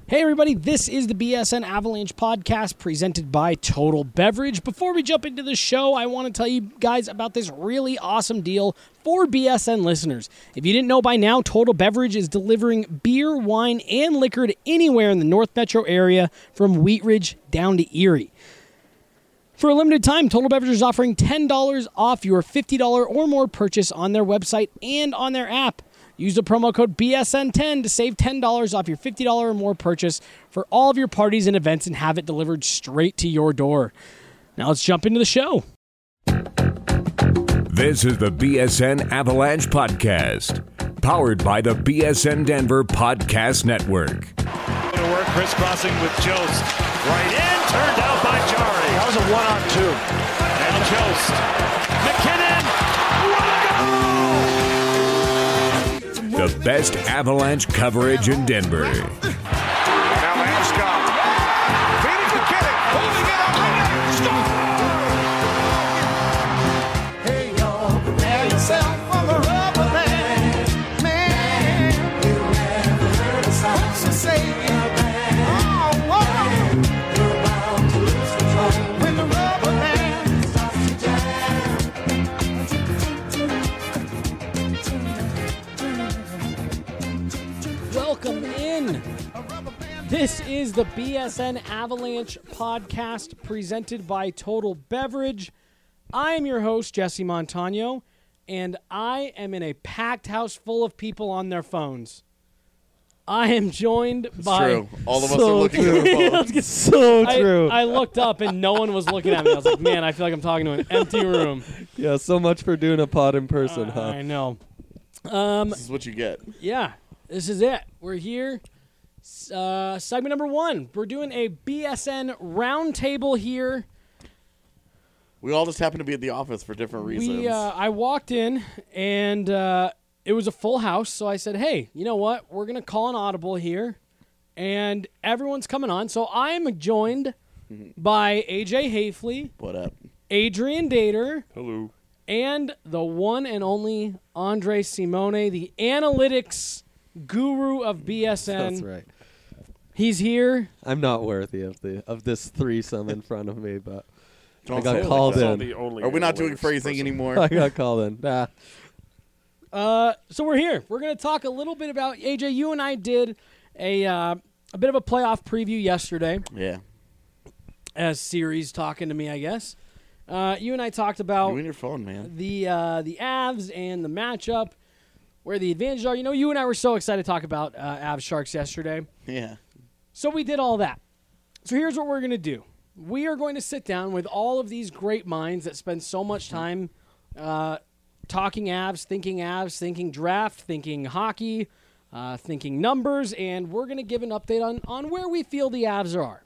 Hey everybody, this is the BSN Avalanche podcast presented by Total Beverage. Before we jump into the show, I want to tell you guys about this really awesome deal for BSN listeners. If you didn't know by now, Total Beverage is delivering beer, wine, and liquor to anywhere in the North Metro area from Wheat Ridge down to Erie. For a limited time, Total Beverage is offering $10 off your $50 or more purchase on their website and on their app. Use the promo code BSN10 to save $10 off your $50 or more purchase for all of your parties and events and have it delivered straight to your door. Now let's jump into the show. This is the BSN Avalanche Podcast, powered by the BSN Denver Podcast Network. To work, crisscrossing with Jost. Right in, turned out by Jari. That was a 1-on-2. And Jost. McKinnon. The best Avalanche coverage in Denver. Now Landeskog. Feeding McKinnon. Holding it up. Hey, y'all, prepare yourself for the rubber band. Man, you never heard a sound so say it. Oh, whoa. You're about to lose control when the rubber band starts to jam. Welcome in. This is the BSN Avalanche podcast presented by Total Beverage. I am your host, Jesse Montano, and I am in a packed house full of people on their phones. I am joined by... True. All of us are looking at our phones. So true. I looked up and no one was looking at me. I was like, man, I feel like I'm talking to an empty room. Yeah, so much for doing a pod in person, huh? I know. This is what you get. Yeah, this is it. We're here. Segment number 1. We're doing a BSN roundtable here. We all just happen to be at the office for different reasons. I walked in and it was a full house, so I said, hey, you know what? We're going to call an audible here, and everyone's coming on. So I'm joined by AJ Hafley, What up? Adrian Dater, Hello. and the one and only Andre Simone, the analytics guru of BSN. That's right. He's here. I'm not worthy of this threesome in front of me, but Don't I got say it called like that. in. Are we not doing phrasing anymore? I got called in. Nah. So we're here. We're going to talk a little bit about, AJ, you and I did a bit of a playoff preview yesterday. Yeah. As Siri's talking to me, I guess. You and I talked about You and your phone, man. the Avs and the matchup, where the advantages are. You know, you and I were so excited to talk about Avs Sharks yesterday. Yeah. So we did all that. So here's what we're going to do. We are going to sit down with all of these great minds that spend so much time talking Avs, thinking draft, thinking hockey, thinking numbers, and we're going to give an update on where we feel the Avs are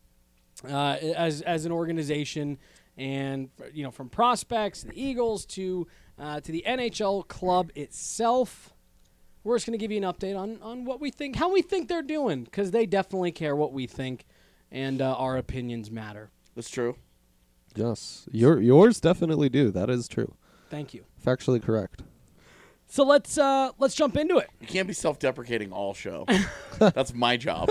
as an organization, and you know, from prospects, the Eagles to the NHL club itself. We're just going to give you an update on what we think, how we think they're doing, because they definitely care what we think, and our opinions matter. That's true. Yes. Yours definitely do. That is true. Thank you. Factually correct. So let's jump into it. You can't be self-deprecating all show. That's my job.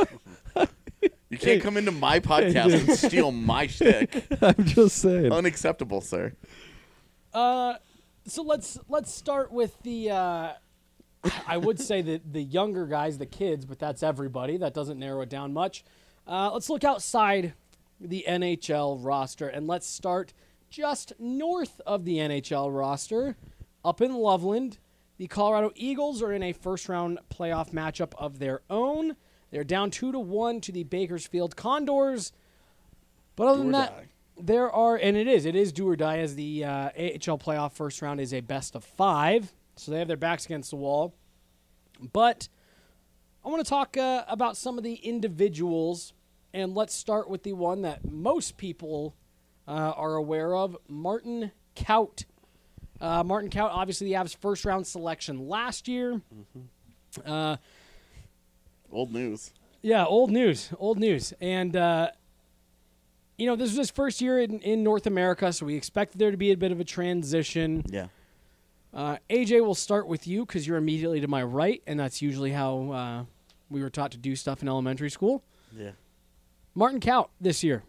You can't come into my podcast and steal my shtick. I'm just saying. Unacceptable, sir. So let's start with the I would say the younger guys, the kids, but that's everybody. That doesn't narrow it down much. Let's look outside the NHL roster, and let's start just north of the NHL roster, up in Loveland. The Colorado Eagles are in a first-round playoff matchup of their own. They're down 2-1 to the Bakersfield Condors. But other than that, there are, and it is do or die, as the AHL playoff first round is a best of 5. So they have their backs against the wall. But I want to talk about some of the individuals, and let's start with the one that most people are aware of, Martin Kaut. Martin Kaut, obviously the Avs' first-round selection last year. Mm-hmm. Old news. Yeah, old news. And, you know, this was his first year in North America, so we expected there to be a bit of a transition. Yeah. AJ, will start with you because you're immediately to my right, and that's usually how we were taught to do stuff in elementary school. Yeah. Martin Kaut this year.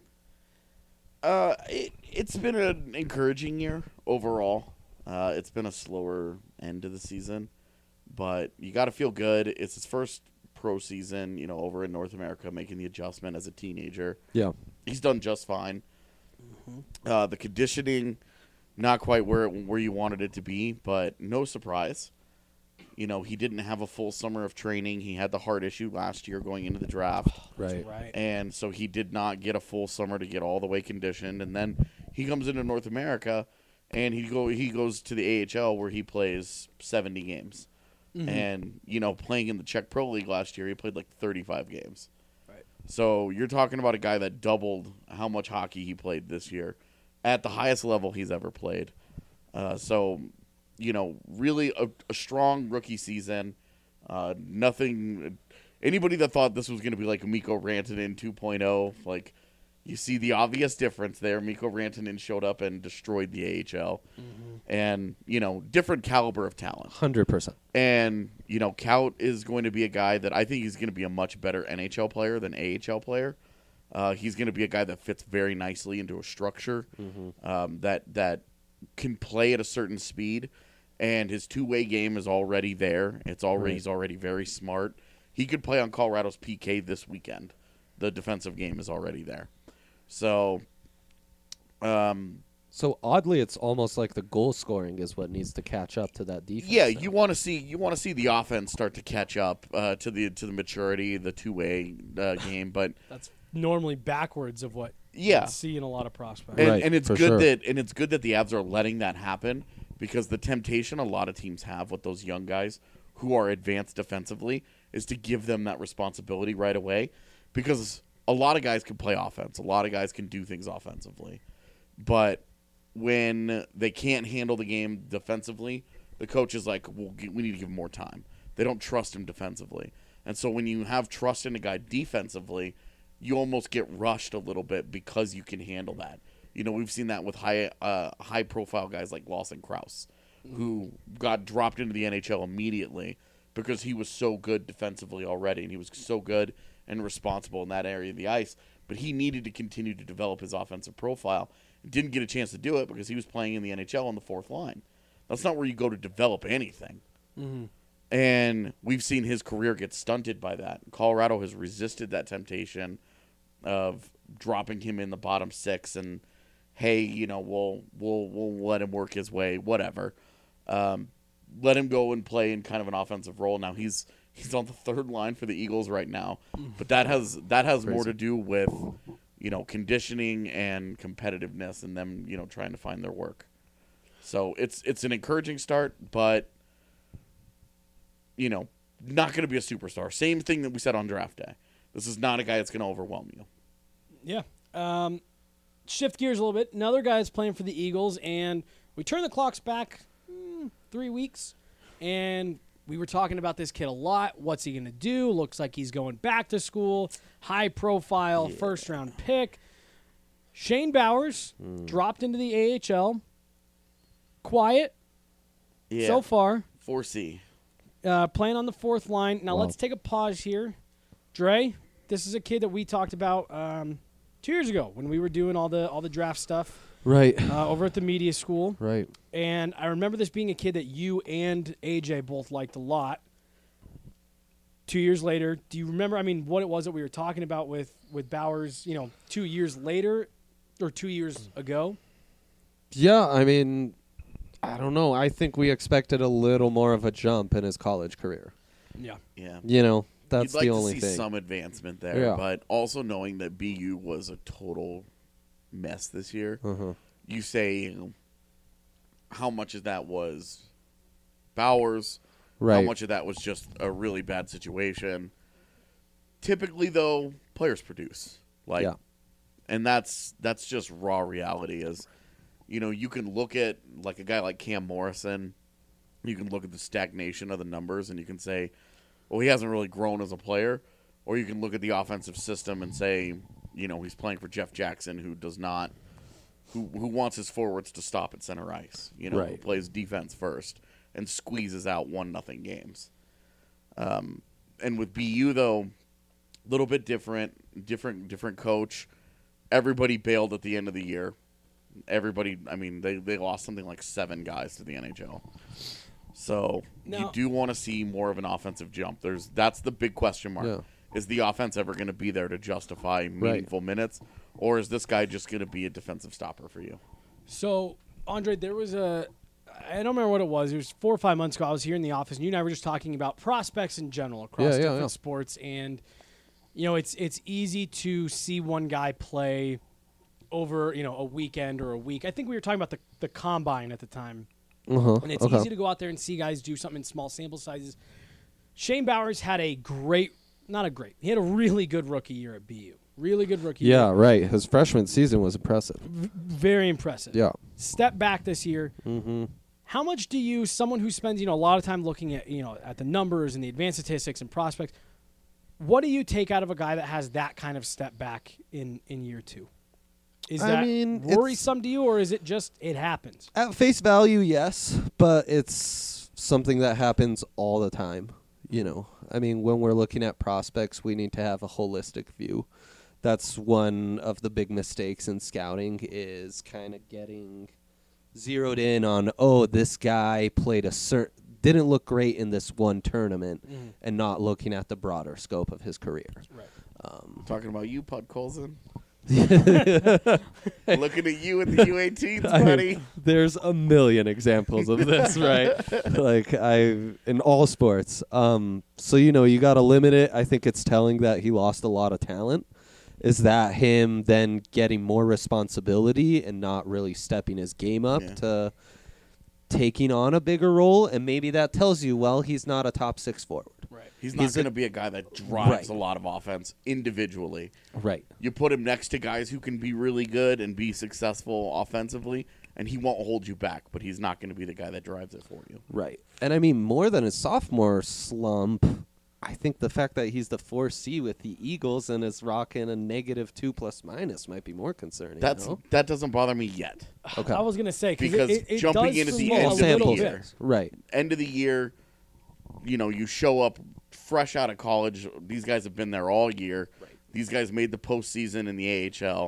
It's been an encouraging year overall. It's been a slower end to the season, but you got to feel good. It's his first pro season, over in North America, making the adjustment as a teenager. Yeah. He's done just fine. The conditioning, not quite where you wanted it to be, but no surprise. He didn't have a full summer of training. He had the heart issue last year going into the draft. Right. And so he did not get a full summer to get all the way conditioned. And then he comes into North America, and he goes to the AHL where he plays 70 games. Mm-hmm. And, playing in the Czech Pro League last year, he played like 35 games. Right. So you're talking about a guy that doubled how much hockey he played this year at the highest level he's ever played. Really a strong rookie season. Anybody that thought this was going to be like Mikko Rantanen 2.0, like, you see the obvious difference there. Mikko Rantanen showed up and destroyed the AHL. Mm-hmm. And, different caliber of talent. 100%. And, Kaut is going to be a guy that I think he's going to be a much better NHL player than AHL player. He's going to be a guy that fits very nicely into a structure that can play at a certain speed. And his two-way game is already there. He's already very smart. He could play on Colorado's PK this weekend. The defensive game is already there. So oddly, it's almost like the goal scoring is what needs to catch up to that defense. Yeah, you want to see the offense start to catch up to the maturity, the two-way game. But that's normally backwards of what you see in a lot of prospects. And it's good that the Avs are letting that happen, because the temptation a lot of teams have with those young guys who are advanced defensively is to give them that responsibility right away, because a lot of guys can play offense. A lot of guys can do things offensively. But when they can't handle the game defensively, the coach is like, well, we need to give him more time. They don't trust him defensively. And so when you have trust in a guy defensively, you almost get rushed a little bit because you can handle that. We've seen that with high-profile guys like Lawson Krause, who got dropped into the NHL immediately because he was so good defensively already, and he was so good and responsible in that area of the ice. But he needed to continue to develop his offensive profile. Didn't get a chance to do it because he was playing in the NHL on the fourth line. That's not where you go to develop anything. Mm-hmm. And we've seen his career get stunted by that. Colorado has resisted that of dropping him in the bottom six and, hey, we'll let him work his way, whatever. Let him go and play in kind of an offensive role. Now he's on the third line for the Eagles right now, but that has more to do with conditioning and competitiveness and them trying to find their work. So it's an encouraging start, but not going to be a superstar. Same thing that we said on draft day. This is not a guy that's going to overwhelm you. Yeah. Shift gears a little bit. Another guy is playing for the Eagles, and we turn the clocks back 3 weeks, and we were talking about this kid a lot. What's he going to do? Looks like he's going back to school. High-profile first-round pick. Shane Bowers dropped into the AHL. Quiet so far. 4C. Playing on the fourth line. Now let's take a pause here. Dre, this is a kid that we talked about 2 years ago when we were doing all the draft stuff. Right. Over at the media school. Right. And I remember this being a kid that you and AJ both liked a lot. 2 years later, do you remember, what it was that we were talking about with Bowers, 2 years later or 2 years ago? Yeah, I don't know. I think we expected a little more of a jump in his college career. Yeah. Yeah. That's You'd like the only to see thing. some advancement there, Yeah. but also knowing that BU was a total mess this year. Uh-huh. You say how much of that was Bowers, Right. how much of that was just a really bad situation. Typically, though, players produce. And that's just raw reality. Is you can look at like a guy like Cam Morrison, you can look at the stagnation of the numbers, and you can say, well, he hasn't really grown as a player. Or you can look at the offensive system and say, he's playing for Jeff Jackson, who does not, who wants his forwards to stop at center ice. Who plays defense first and squeezes out 1-0 games. with BU though, a little bit different coach. Everybody bailed at the end of the year. Everybody, I mean, they lost something like 7 guys to the NHL. So you do want to see more of an offensive jump. That's the big question mark. Yeah. Is the offense ever going to be there to justify meaningful minutes, or is this guy just going to be a defensive stopper for you? So, Andre, there was I don't remember what it was. It was 4 or 5 months ago. I was here in the office, and you and I were just talking about prospects in general across different sports. And, it's easy to see one guy play over, a weekend or a week. I think we were talking about the combine at the time. And it's easy to go out there and see guys do something in small sample sizes. Shane Bowers had he had a really good rookie year at BU. Really good rookie year. Yeah, right. His freshman season was impressive. Very impressive. Yeah. Step back this year. Mm-hmm. How much do you, someone who spends, a lot of time looking at, at the numbers and the advanced statistics and prospects, what do you take out of a guy that has that kind of step back in year 2? Is that worrisome to you, or is it just it happens? At face value, yes, but it's something that happens all the time. When we're looking at prospects, we need to have a holistic view. That's one of the big mistakes in scouting, is kind of getting zeroed in on, this guy didn't look great in this one tournament, and not looking at the broader scope of his career. Right. Talking about you, Pud Colson. Looking at you at the U18s, buddy. There's a million examples of this, right? In all sports. So you got to limit it. I think it's telling that he lost a lot of talent. Is that him then getting more responsibility and not really stepping his game up to taking on a bigger role? And maybe that tells you, he's not a top 6 forward. Right. He's not going to be a guy that drives a lot of offense individually. Right. You put him next to guys who can be really good and be successful offensively, and he won't hold you back, but he's not going to be the guy that drives it for you. Right. And more than his sophomore slump, I think the fact that he's the 4C with the Eagles and is rocking a -2 ± might be more concerning. That doesn't bother me yet. Okay. I was going to say, because it jumping does in at the slow end a of the little year, bit. Right? End of the year, you show up fresh out of college. These guys have been there all year. Right. These guys made the postseason in the AHL.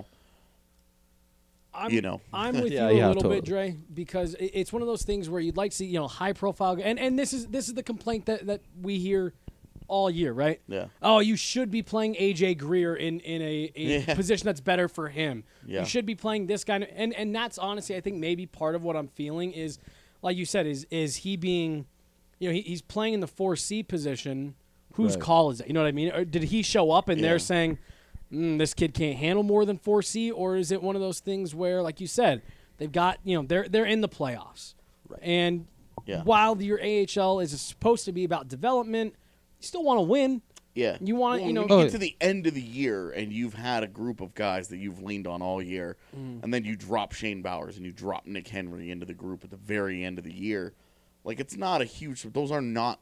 I'm with you a little bit, Dre, because it's one of those things where you'd like to see, high profile, and this is the complaint that we hear all year, right? Yeah. Oh, you should be playing AJ Greer in a position that's better for him. Yeah. You should be playing this guy, and that's honestly, I think maybe part of what I'm feeling is, like you said, is he being, he's playing in the 4C position. Whose call is it? You know what I mean? Or did he show up and they're saying, this kid can't handle more than 4C, or is it one of those things where, like you said, they've got, they're in the playoffs, right? And while your AHL is supposed to be about development, you still want to win. Yeah. You want to, you get to the end of the year and you've had a group of guys that you've leaned on all year, and then you drop Shane Bowers and you drop Nick Henry into the group at the very end of the year. It's not a huge, those are not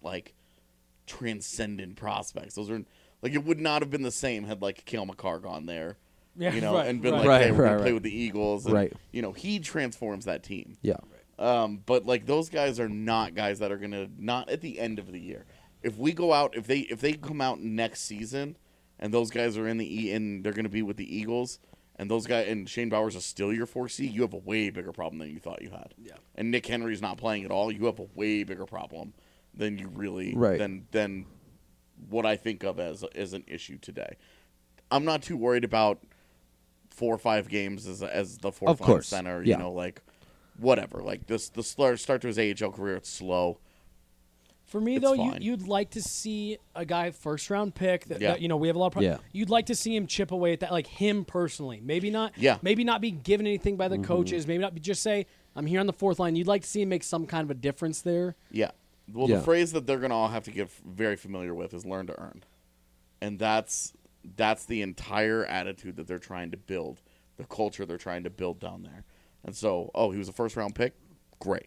transcendent prospects. Those are it would not have been the same had Cale Makar gone there, and been hey, we're gonna play with the Eagles, and, he transforms that team. Yeah. But those guys are not guys that are gonna not at the end of the year. If we go out, if they come out next season, and those guys are and they're gonna be with the Eagles, and those guys and Shane Bowers is still your 4C, you have a way bigger problem than you thought you had. Yeah. And Nick Henry's not playing at all, you have a way bigger problem than you really than what I think of as an issue today. I'm not too worried about 4 or 5 games as the fourth line center. Whatever. The start to his AHL career, it's slow. For me, though, you'd like to see a guy first-round pick that we have a lot of You'd like to see him chip away at that, him personally. Maybe not be given anything by the coaches. Maybe not just say, I'm here on the 4th line. You'd like to see him make some kind of a difference there. Yeah. Well, the phrase that they're going to all have to get very familiar with is learn to earn. And that's the entire attitude that they're trying to build, the culture they're trying to build down there. And so, he was a first-round pick? Great.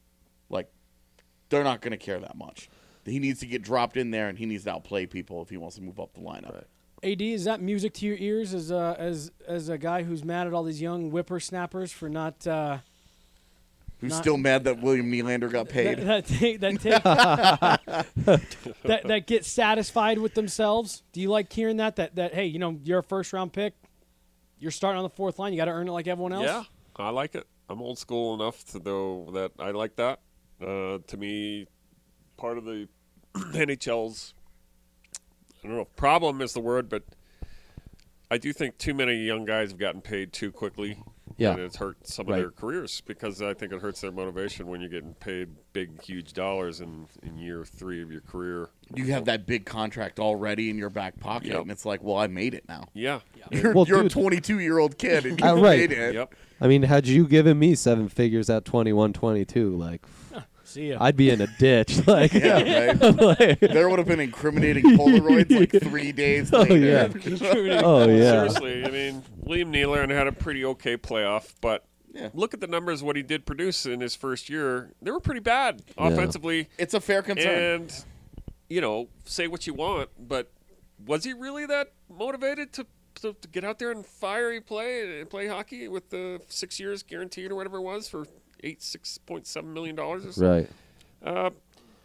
They're not going to care that much. He needs to get dropped in there, and he needs to outplay people if he wants to move up the lineup. Right. AD, is that music to your ears as a guy who's mad at all these young whippersnappers for not Who's still mad that William Nylander got paid? That get satisfied with themselves. Do you like hearing that hey, you're a first round pick, you're starting on the fourth line, you got to earn it like everyone else? Yeah, I like it. I'm old school enough to know that I like that. To me, part of the NHL's, I don't know if problem is the word, but I do think too many young guys have gotten paid too quickly. Yeah. And it's hurt some of their careers because I think it hurts their motivation when you're getting paid big, huge dollars in year 3 of your career. You have that big contract already in your back pocket, and it's like, well, I made it now. Yeah. You're Well, a dude. 22-year-old kid, and you Right. made it. Yep. I mean, had you given me 7 figures at 21, 22, like, See ya. I'd be in a ditch. Like, Yeah, right? There would have been incriminating Polaroids like 3 days later. yeah. Oh, yeah. Seriously, I mean, William Nylander had a pretty okay playoff, but Yeah. look at the numbers, what he did produce in his first year. They were pretty bad offensively. It's a fair concern. And, say what you want, but was he really that motivated to get out there and fiery play and play hockey with the 6 years guaranteed or whatever it was for $6.7 million or something? Right.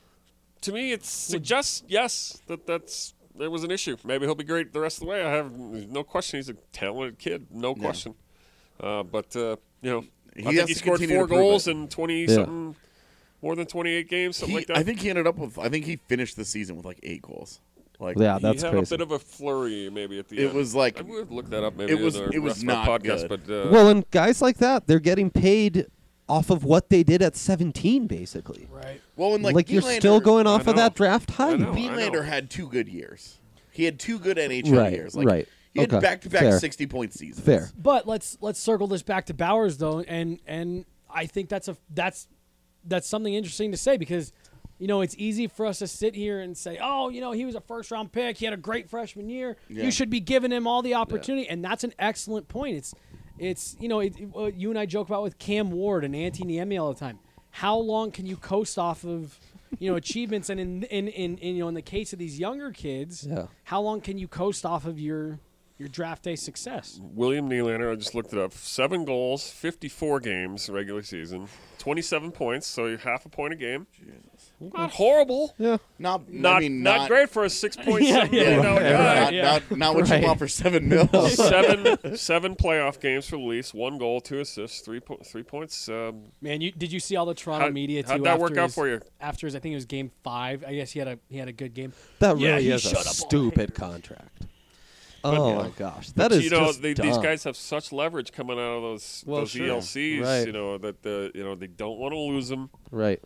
To me, it suggests, yes, there was an issue. Maybe he'll be great the rest of the way. I have no question. He's a talented kid, no question. But I has think he to scored continue 4 to prove goals it. in 20-something, more than 28 games, something like that. I think he ended up with. I think he finished the season with like 8 goals. Like, Yeah, he that's had crazy. a bit of a flurry maybe at the It end. was like- I would look that up maybe it was- in the it was rest of our not podcast. good. But Well, and guys like that, they're getting paid off of what they did at 17, basically. Right. well, and Like, you're still going off of know. that draft height. know. Nylander had 2 good years. He had 2 good NHL Right, years. Like, right. He had Okay, back-to-back fair. 60-point seasons. Fair. But let's circle this back to Bowers though, and I think that's something interesting to say because it's easy for us to sit here and say, oh, he was a first-round pick, he had a great freshman year, you should be giving him all the opportunity, and that's an excellent point. It's you and I joke about with Cam Ward and Antti Niemi all the time. How long can you coast off of achievements, and in the case of these younger kids, how long can you coast off of your draft day success? William Nylander, I just looked it up. 7 goals, 54 games regular season, 27 points, so half a point a game. Not horrible. Yeah. Not Not great for a $6.7 million guy. Not what you want for $7 million. seven playoff games for the Leafs, 1 goal, 2 assists, 3 points. Man, did you see all the Toronto media too? How'd that work after out his- for you? After his, I think it was Game 5. I guess he had a good game. That Yeah, really he is a shut up all stupid contract. Oh, my gosh. That But, is just these dumb. guys have such leverage coming out of those sure. ELCs, Right. that they don't want to lose them. Right.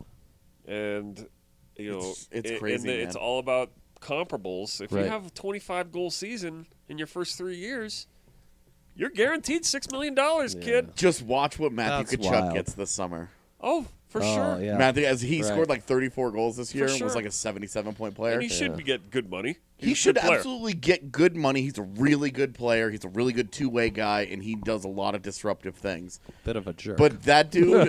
And It's crazy, man. it's all about comparables. If Right. you have a 25-goal season in your first 3 years, you're guaranteed $6 million, kid. Just watch what Matthew That's Tkachuk wild. gets this summer. Oh, for sure. Yeah. Matthew, as he Right. scored like 34 goals this year and sure. was like a 77-point player. And he should get good money. He He's a should good player. absolutely get good money. He's a really good player. He's a really good two-way guy, and he does a lot of disruptive things. Bit of a jerk. But that dude,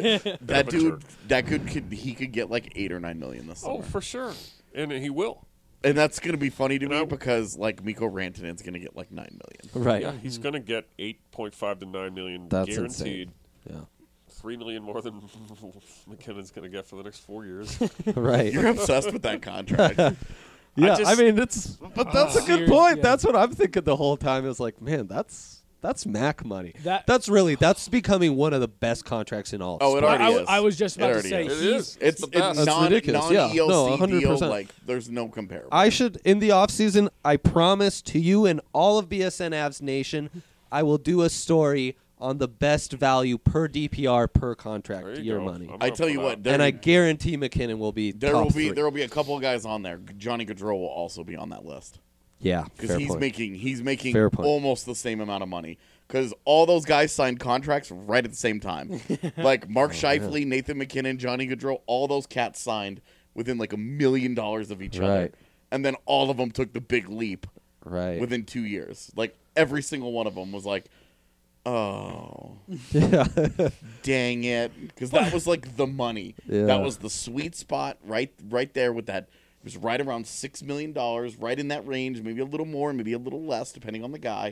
jerk. he could get like $8 or $9 million this summer. Oh, for sure. And he will. And that's going to be funny to me I- because like Mikko Rantanen's going to get like $9 million. right. Yeah, he's going to get $8.5 to $9 million That's guaranteed. insane. Yeah. $3 million more than McKinnon's going to get for the next 4 years. Right. You're obsessed with that contract. Yeah, just- I mean, but that's a good Serious, point. yeah. That's what I'm thinking the whole time. Is like, man, that's Mac money. That- That's becoming one of the best contracts in all. Oh, it sports. already is. I was just It about to already say is. It is. It's the best. That's ridiculous. Yeah. non-ELC No, deal. 100%. Like there's no comparable. I should in the off season. I promise to you and all of BSN Avs Nation, I will do a story on the best value per DPR per contract There you year go. money. I'm I up tell for you that. what, And I guarantee McKinnon will be there top will be 3. there will be a couple of guys on there. Johnny Gaudreau will also be on that list Yeah, because fair he's point. making Fair point. almost the same amount of money because all those guys signed contracts right at the same time. Like Mark Scheifele, Nathan McKinnon, Johnny Gaudreau, all those cats signed within like $1 million of each other, Right. and then all of them took the big leap right. within 2 years. Like every single one of them was like, oh. yeah. Dang it, because that was like the money. Yeah. That was the sweet spot right there with that. It was right around $6 million, right in that range, maybe a little more, maybe a little less, depending on the guy.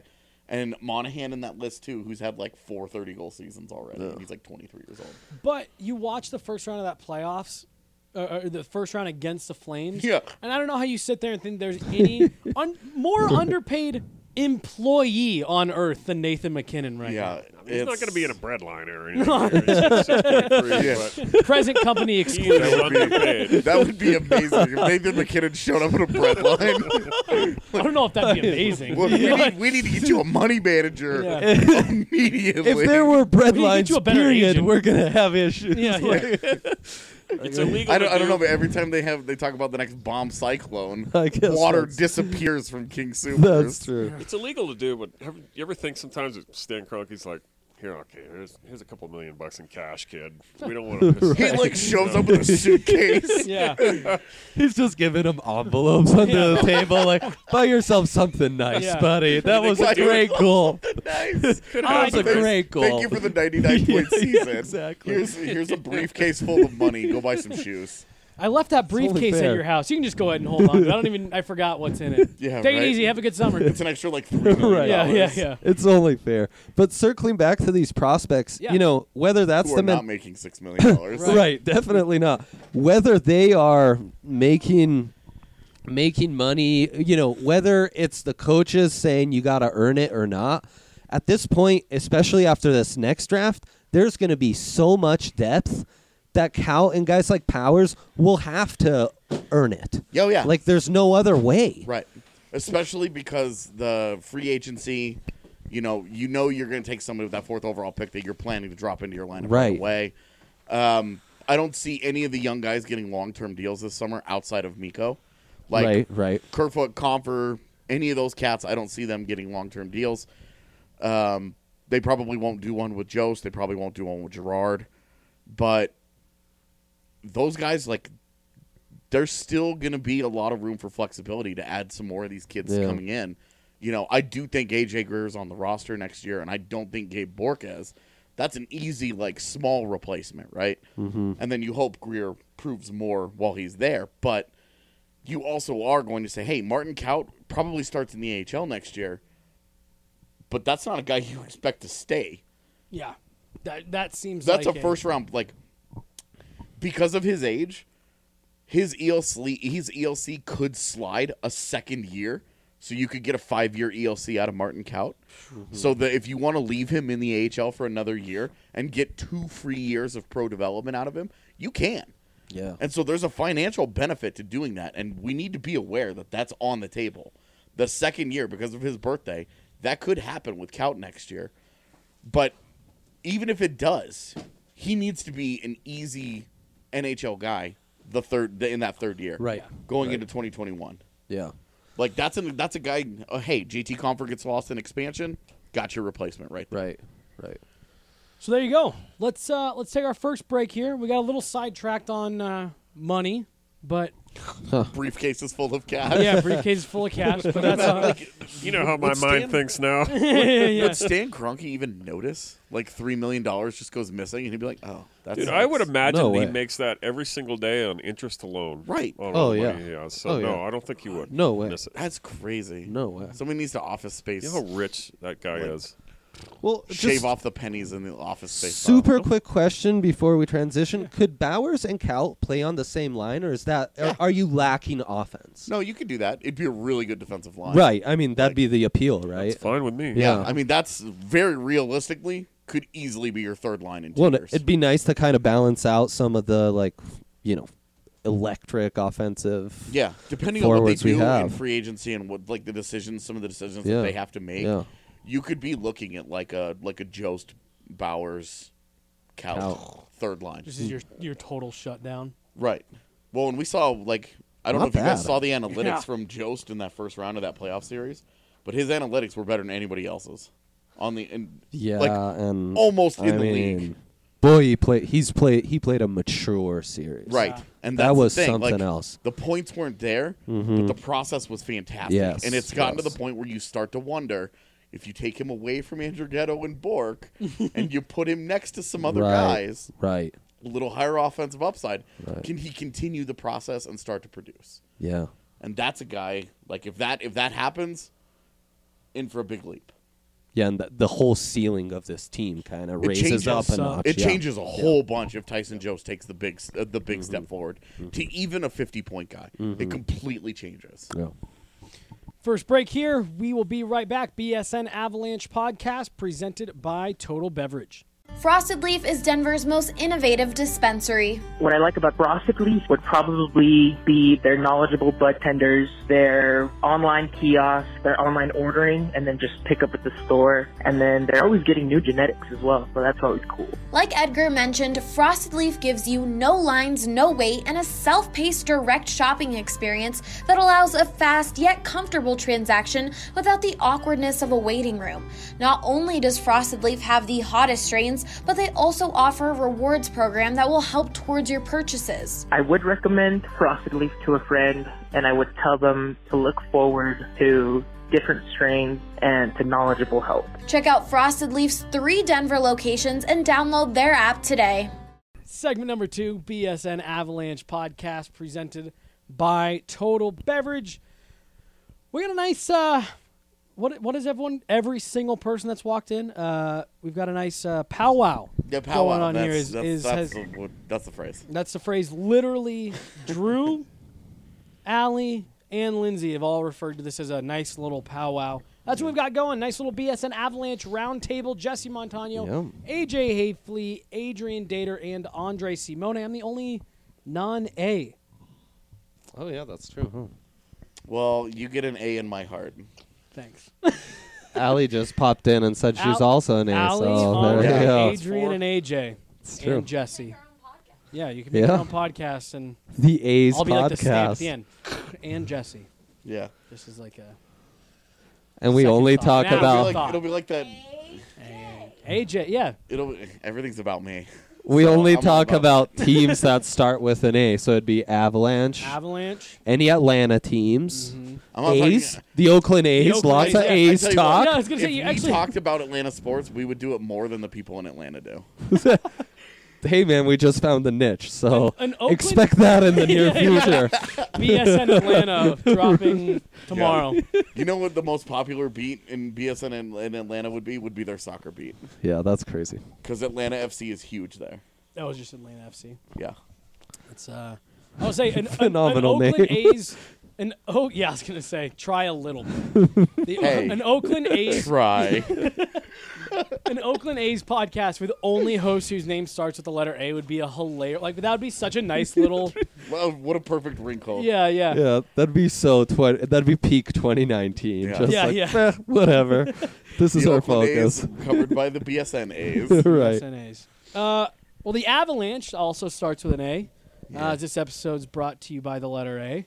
And Monahan in that list, too, who's had like 4 30-goal seasons already. And he's like 23 years old. But you watch the first round of that playoffs, or the first round against the Flames. Yeah. And I don't know how you sit there and think there's any more underpaid employee on earth than Nathan McKinnon right Yeah. He's not going to be in a bread line or anything. He's 6.3, Yeah. now. Present company excluded. He's underpaid. That would be amazing if Nathan McKinnon showed up in a bread line. I don't know if that'd be amazing. Look, we need to get you a money manager Yeah. immediately. If there were bread We need to get lines, you a better period, agent. we're gonna have issues. Yeah, yeah. It's illegal. I don't know, but every time they talk about the next bomb cyclone, I guess water that's- disappears from King Supers. That's true. It's illegal to do, but you ever think sometimes that Stan Kroenke's like, here, okay, here's a couple $1 million in cash, kid. We don't want to. He like shows up with a suitcase. Yeah. He's just giving him envelopes under the table, like, buy yourself something nice, Yeah. buddy. That was a Buy great yourself goal. Nice. That was a great goal. Thank you for the 99-point season. exactly. Here's a briefcase full of money. Go buy some shoes. I left that only briefcase at fair. your house. You can just go ahead and hold on to it. I forgot what's in it. Yeah, Take right? it easy. Have a good summer. It's an extra like $3 million. Right. Yeah. It's only fair. But circling back to these prospects, Yeah. you know, whether that's Who the are not making $6 million. right, definitely not. Whether they are making money, you know, whether it's the coaches saying you got to earn it or not, at this point, especially after this next draft, there's going to be so much depth that Cal and guys like Powers will have to earn it. Oh, yeah. Like, there's no other way. Right. Especially because the free agency, you know you're going to take somebody with that 4th overall pick that you're planning to drop into your lineup right away. I don't see any of the young guys getting long-term deals this summer outside of Mikko. Like Right. Kerfoot, Comfer, any of those cats, I don't see them getting long-term deals. They probably won't do one with Jost. They probably won't do one with Gerard. But those guys, like, there's still going to be a lot of room for flexibility to add some more of these kids coming in. You know, I do think A.J. Greer's on the roster next year, and I don't think Gabe Bork is. That's an easy, like, small replacement, right? Mm-hmm. And then you hope Greer proves more while he's there. But you also are going to say, hey, Martin Kaut probably starts in the AHL next year, but that's not a guy you expect to stay. Yeah. That seems That's like a first round, like, because of his age, his ELC could slide a second year, so you could get a 5-year ELC out of Martin Kaut. Mm-hmm. So that if you want to leave him in the AHL for another year and get 2 free years of pro development out of him, you can. Yeah. And so there's a financial benefit to doing that, and we need to be aware that that's on the table. The second year, because of his birthday, that could happen with Kaut next year. But even if it does, he needs to be an easy NHL guy in that third year, Right. Going into 2021. Yeah. Like that's a guy. Hey, JT Compher gets lost in expansion. Got your replacement right there. Right. So there you go. Let's take our first break here. We got a little sidetracked on money, but Briefcases full of cash. yeah, briefcase is full of cash. But that's You know how my Would mind Stan- thinks now. Would Stan Kroenke even notice? Like $3 million just goes missing, and he'd be like, "Oh, that's." Dude, I would imagine No he way. makes that every single day on interest alone. Right. On Oh, all the yeah. money he has. So Oh, no, yeah. I don't think he would. No way. Miss it. That's crazy. No way. Somebody needs to office space. You know how rich that guy Like, is. Well, Shave just off the pennies in the office space. super quick question before we transition: could Bowers and Kaut play on the same line, or is that are you lacking offense? No, you could do that. It'd be a really good defensive line. Right. I mean, that'd be the appeal, right? It's fine with me. Yeah. I mean, that's very realistically could easily be your third line in 2 Well, years. it'd be nice to kind of balance out some of the electric offensive. Yeah, depending on what they forwards we do in have. free agency and what some of the decisions Yeah. that they have to make, Yeah. you could be looking at like a Jost, Bowers, Kaut Kaut. third line. this is your total shutdown. Right. Well, and we saw like I don't Not know if you guys bad. saw the analytics Yeah. from Jost in that first round of that playoff series, but his analytics were better than anybody else's on the Yeah, like and almost I in the mean, league. boy, he played a mature series. Right. Yeah. And That that's was the thing. something like, else. The points weren't there, but the process was fantastic. Yes, And it's gotten to yes. the point where you start to wonder if you take him away from Andrew Ghetto and Bork and you put him next to some other guys, Right. a little higher offensive upside, Right. can he continue the process and start to produce? Yeah. And that's a guy like if that happens, in for a big leap. Yeah, and the whole ceiling of this team kind of raises up a notch. It yeah. changes a whole bunch if Tyson Jost takes the big step forward to even a 50-point guy. It completely changes. Yeah. First break here. We will be right back. BSN Avalanche podcast presented by Total Beverage. Frosted Leaf is Denver's most innovative dispensary. What I like about Frosted Leaf would probably be their knowledgeable bud tenders, their online kiosk, their online ordering, and then just pick up at the store. And then they're always getting new genetics as well, so that's always cool. Like Edgar mentioned, Frosted Leaf gives you no lines, no wait, and a self-paced direct shopping experience that allows a fast yet comfortable transaction without the awkwardness of a waiting room. Not only does Frosted Leaf have the hottest strains, but they also offer a rewards program that will help towards your purchases. I would recommend Frosted Leaf to a friend, and I would tell them to look forward to different strains and to knowledgeable help. Check out Frosted Leaf's 3 Denver locations and download their app today. Segment number 2, BSN Avalanche podcast presented by Total Beverage. We got a nice... What is every single person that's walked in? We've got a nice powwow. Yeah, powwow going on here. That's the phrase. That's the phrase. Literally, Drew, Allie, and Lindsay have all referred to this as a nice little powwow. That's what we've got going. Nice little BSN Avalanche roundtable. Jesse Montano, AJ Hafley, Adrian Dater, and Andre Simone. I'm the only non-A. Oh, yeah, that's true. Huh? Well, you get an A in my heart. Thanks. Allie just popped in and said she's also an A. Allie, So there you go. Adrian, and AJ. It's true. And Jesse. Yeah, you can make your own podcast, and The A's I'll be like the stamp at podcast. the end. And Jesse. Yeah. This is like a... And we Second only thought. talk Now about thought. It'll be like that. AJ, yeah. Everything's about me. we So only I'm talk about- about teams that start with an A. So it'd be Avalanche, Avalanche. any Atlanta teams, I'm not A's, talking- the Oakland A's, Oakland lots A's, of yeah. A's I tell you what, talk. Yeah, I was going to If say, you we actually... talked about Atlanta sports, we would do it more than the people in Atlanta do. Hey, man, we just found the niche, so An Oakland- expect that in the near Yeah, future. BSN Atlanta dropping tomorrow. You know what the most popular beat in BSN in Atlanta would be their soccer beat. Yeah, that's crazy. Because Atlanta FC is huge there. That was just Atlanta FC. Yeah. It's I would say an Phenomenal Oakland name. A's. I was gonna say try a little. Hey. An Oakland A's. Try. An Oakland A's podcast with only hosts whose name starts with the letter A would be a hilarious. Like that would be such a nice little. Well, what a perfect wrinkle. Yeah. Yeah, that'd be that'd be peak 2019. Yeah. Just Yeah, like, yeah. Whatever. This is The our Oakland focus. A's covered by the BSN A's. Right. BSN A's. Well, the Avalanche also starts with an A. This episode's brought to you by the letter A.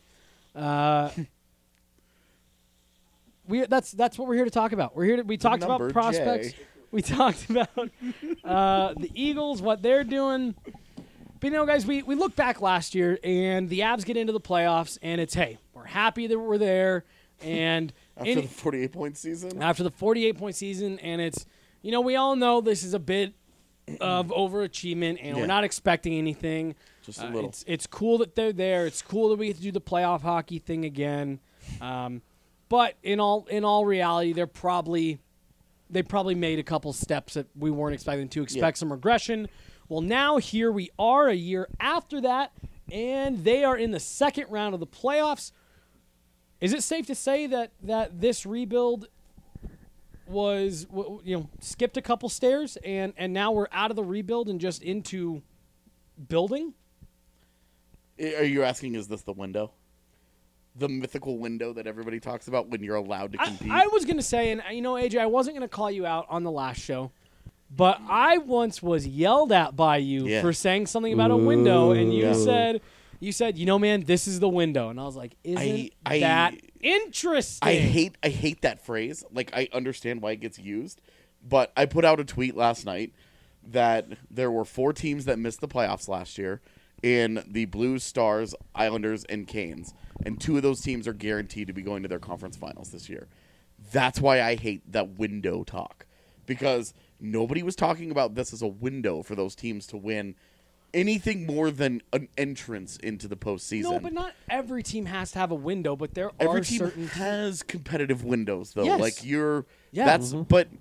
That's what we're here to talk about. We talked about number prospects. J. We talked about the Eagles, what they're doing. But guys, we look back last year, and the Avs get into the playoffs, and it's we're happy that we're there, and After the 48-point season? after the 48-point season, and it's we all know this is a bit of overachievement, and we're Yeah. not expecting anything. Just a little. It's cool that they're there. It's cool that we get to do the playoff hockey thing again. But in all reality, they probably made a couple steps that we weren't expecting to expect some regression. Well, now here we are a year after that, and they are in the second round of the playoffs. Is it safe to say that this rebuild was skipped a couple stairs and now we're out of the rebuild and just into building? Are you asking, is this the window? The mythical window that everybody talks about when you're allowed to compete? I was going to say, and AJ, I wasn't going to call you out on the last show, but I once was yelled at by you for saying something about a window, and you said, man, this is the window. And I was like, isn't that interesting? I hate that phrase. Like, I understand why it gets used, but I put out a tweet last night that there were 4 teams that missed the playoffs last year in the Blues, Stars, Islanders, and Canes. And 2 of those teams are guaranteed to be going to their conference finals this year. That's why I hate that window talk. Because nobody was talking about this as a window for those teams to win anything more than an entrance into the postseason. No, but not every team has to have a window, but there Every are team certain has competitive windows, though. Yes. Like, Yeah. that's, but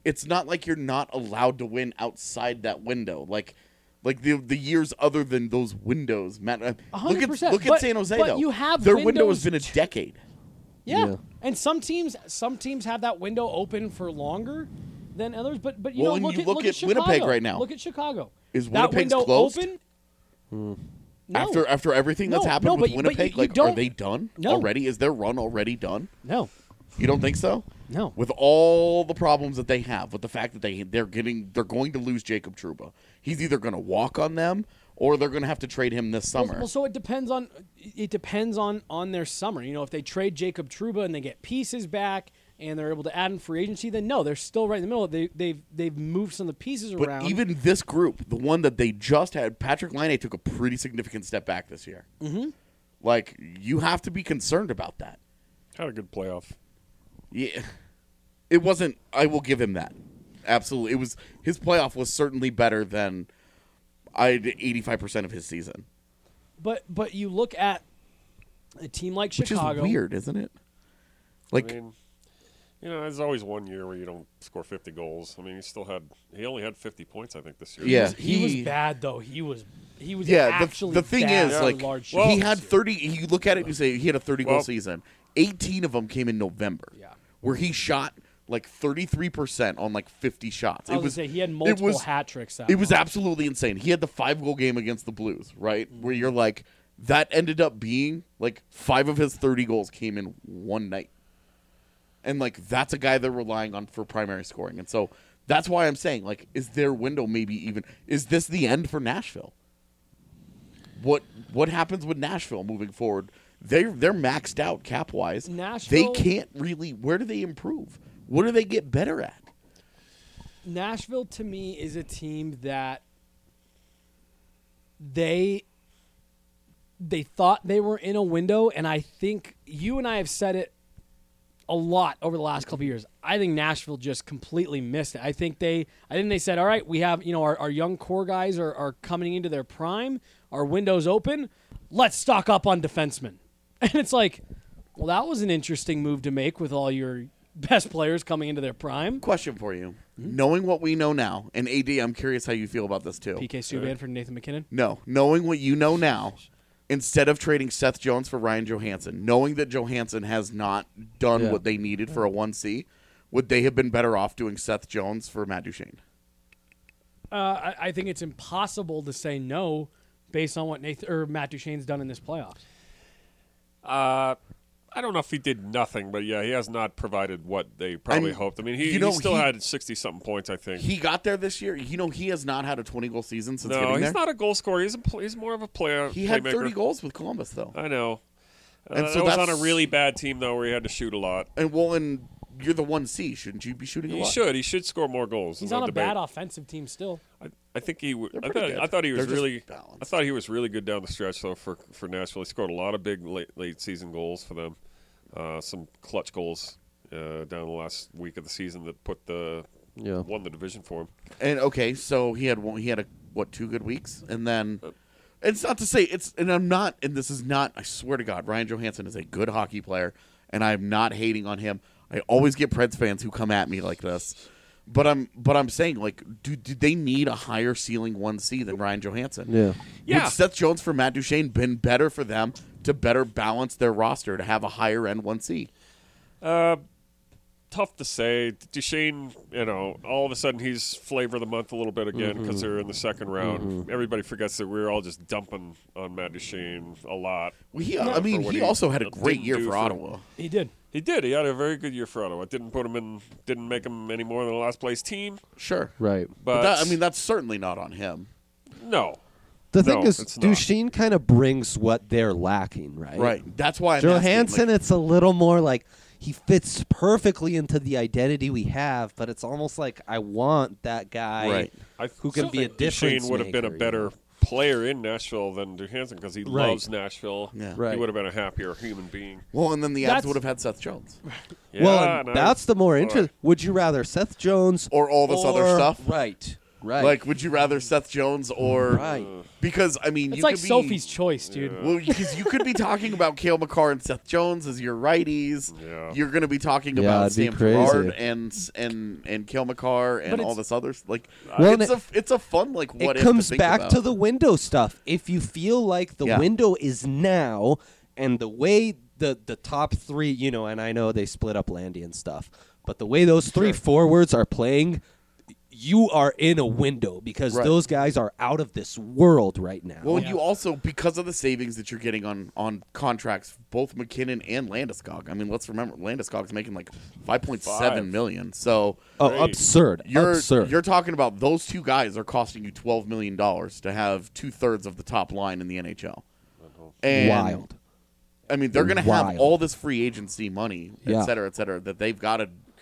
it's not like you're not allowed to win outside that window. Like the years other than those windows, Matt. 100%. Look at San Jose but though. You have their window has windows been a decade. Yeah. And some teams have that window open for longer than others. But you Well, know, and look you at look at Winnipeg Chicago. right now. Look at Chicago. Is that Winnipeg's window closed? open? No. After everything that's No, happened no, with but Winnipeg, you like are don't- they done No. already? Is their run already done? No. You don't think so? No. With all the problems that they have, with the fact that they're going to lose Jacob Trouba. He's either going to walk on them or they're going to have to trade him this summer. Well, so it depends on their summer. You know, if they trade Jacob Trouba and they get pieces back and they're able to add in free agency, then no, they're still right in the middle. They've moved some of the pieces But around. even this group, the one that they just had, Patrick Laine took a pretty significant step back this year. Mm-hmm. Like, you have to be concerned about that. Had a good playoff. Yeah. It wasn't, I will give him that. Absolutely. His playoff was certainly better than 85% of his season. But you look at a team like Chicago. Which is weird, isn't it? Like, I mean, you know, there's always one year where you don't score 50 goals. I mean, he only had 50 points, I think, this year. Yeah. He was bad though. He was yeah, actually the thing bad is, for like, large he shots. had 30. You look at it and you say he had a 30-goal Well- season. 18 of them came in November. Yeah. Where he shot like 33% on like 50 shots. I was gonna say he had multiple hat tricks. It was absolutely insane. He had the 5-goal game against the Blues, right? Mm-hmm. Where you're like, that ended up being like 5 of his 30 goals came in one night. And like, that's a guy they're relying on for primary scoring. And so that's why I'm saying, like, is their window maybe even, is this the end for Nashville? What happens with Nashville moving forward? They're maxed out cap wise. Nashville- They can't really. Where do they improve? What do they get better at? Nashville to me is a team that they thought they were in a window, and I think you and I have said it a lot over the last couple of years. I think Nashville just completely missed it. I think they said, all right, we have, you know, our young core guys are coming into their prime. Our window's open. Let's stock up on defensemen. And it's like, well, that was an interesting move to make with all your best players coming into their prime. Question for you: Hmm? knowing what we know now, and AD, I'm curious how you feel about this too. PK Subban for Nathan McKinnon. No, knowing what you know now, instead of trading Seth Jones for Ryan Johansson, knowing that Johansson has not done what they needed for a 1C, would they have been better off doing Seth Jones for Matt Duchene? I think it's impossible to say no based on what Matt Duchene's done in this playoffs. I don't know if he did nothing, but yeah, he has not provided what they probably hoped. I mean, he still had 60-something points, I think. He got there this year. You know, he has not had a 20-goal season since getting there. No, he's not a goal scorer. He's more of a player. He had playmaker. 30 goals with Columbus, though. I know. And so that was on that's- a really bad team, though, where he had to shoot a lot. And you're the 1C. Shouldn't you be shooting a He lot? should. He should score more goals. He's no on a debate. bad offensive team still. I think he. pretty good. I thought he was They're just really. balanced. I thought he was really good down the stretch though for Nashville. He scored a lot of big late season goals for them. Some clutch goals down the last week of the season that won the division for him. And okay, so he had 2 good weeks, and then it's not to say this is not. I swear to God, Ryan Johansson is a good hockey player, and I'm not hating on him. I always get Preds fans who come at me like this, but I'm saying, like, do they need a higher ceiling 1C than Ryan Johansson? Yeah. Would Seth Jones for Matt Duchene been better for them to better balance their roster to have a higher end 1C? Tough to say. Duchene, all of a sudden he's flavor of the month a little bit again because they're in the second round. Everybody forgets that we were all just dumping on Matt Duchene a lot. Well, he also had a great year for Ottawa. He did. He did. He had a very good year for Ottawa. Didn't make him any more than a last place team. Sure. Right. But that's certainly not on him. No. The thing is, it's not. Duchene kind of brings what they're lacking, right? Right. That's why I'm Johansson, asking, it's a little more like he fits perfectly into the identity we have, but it's almost like I want that guy who can be a difference Duchene would have been a maker, better player in Nashville than Johansson because he loves Nashville. Yeah. Right. He would have been a happier human being. Well, and then the Avs would have had Seth Jones. Yeah, well, and no, that's the more interesting. Would you rather Seth Jones or all this other stuff? Right. Right. Like, would you rather Seth Jones or Right. Because I mean, It's you like could be, Sophie's choice, dude. Well, because you could be talking about Cale Makar and Seth Jones as your righties. Yeah. You're going to be talking Yeah, about it'd be Sam crazy. Gerard and Cale Makar and But all it's- this other like. Well, it's a fun like what it if comes to think back about. to the window stuff. If you feel like the Yeah. window is now, and the way the top three, you know, and I know they split up Landy and stuff, but the way those three forwards are playing, you are in a window because Right. those guys are out of this world right now. Well, you also because of the savings that you're getting on contracts, both McKinnon and Landeskog. I mean, let's remember Landeskog's making like $5.7 million. So absurd. You're talking about those two guys are costing you $12 million to have 2/3 of the top line in the NHL. And Wild. I mean, they're going to have Wild. all this free agency money, Yeah. et cetera, that they've got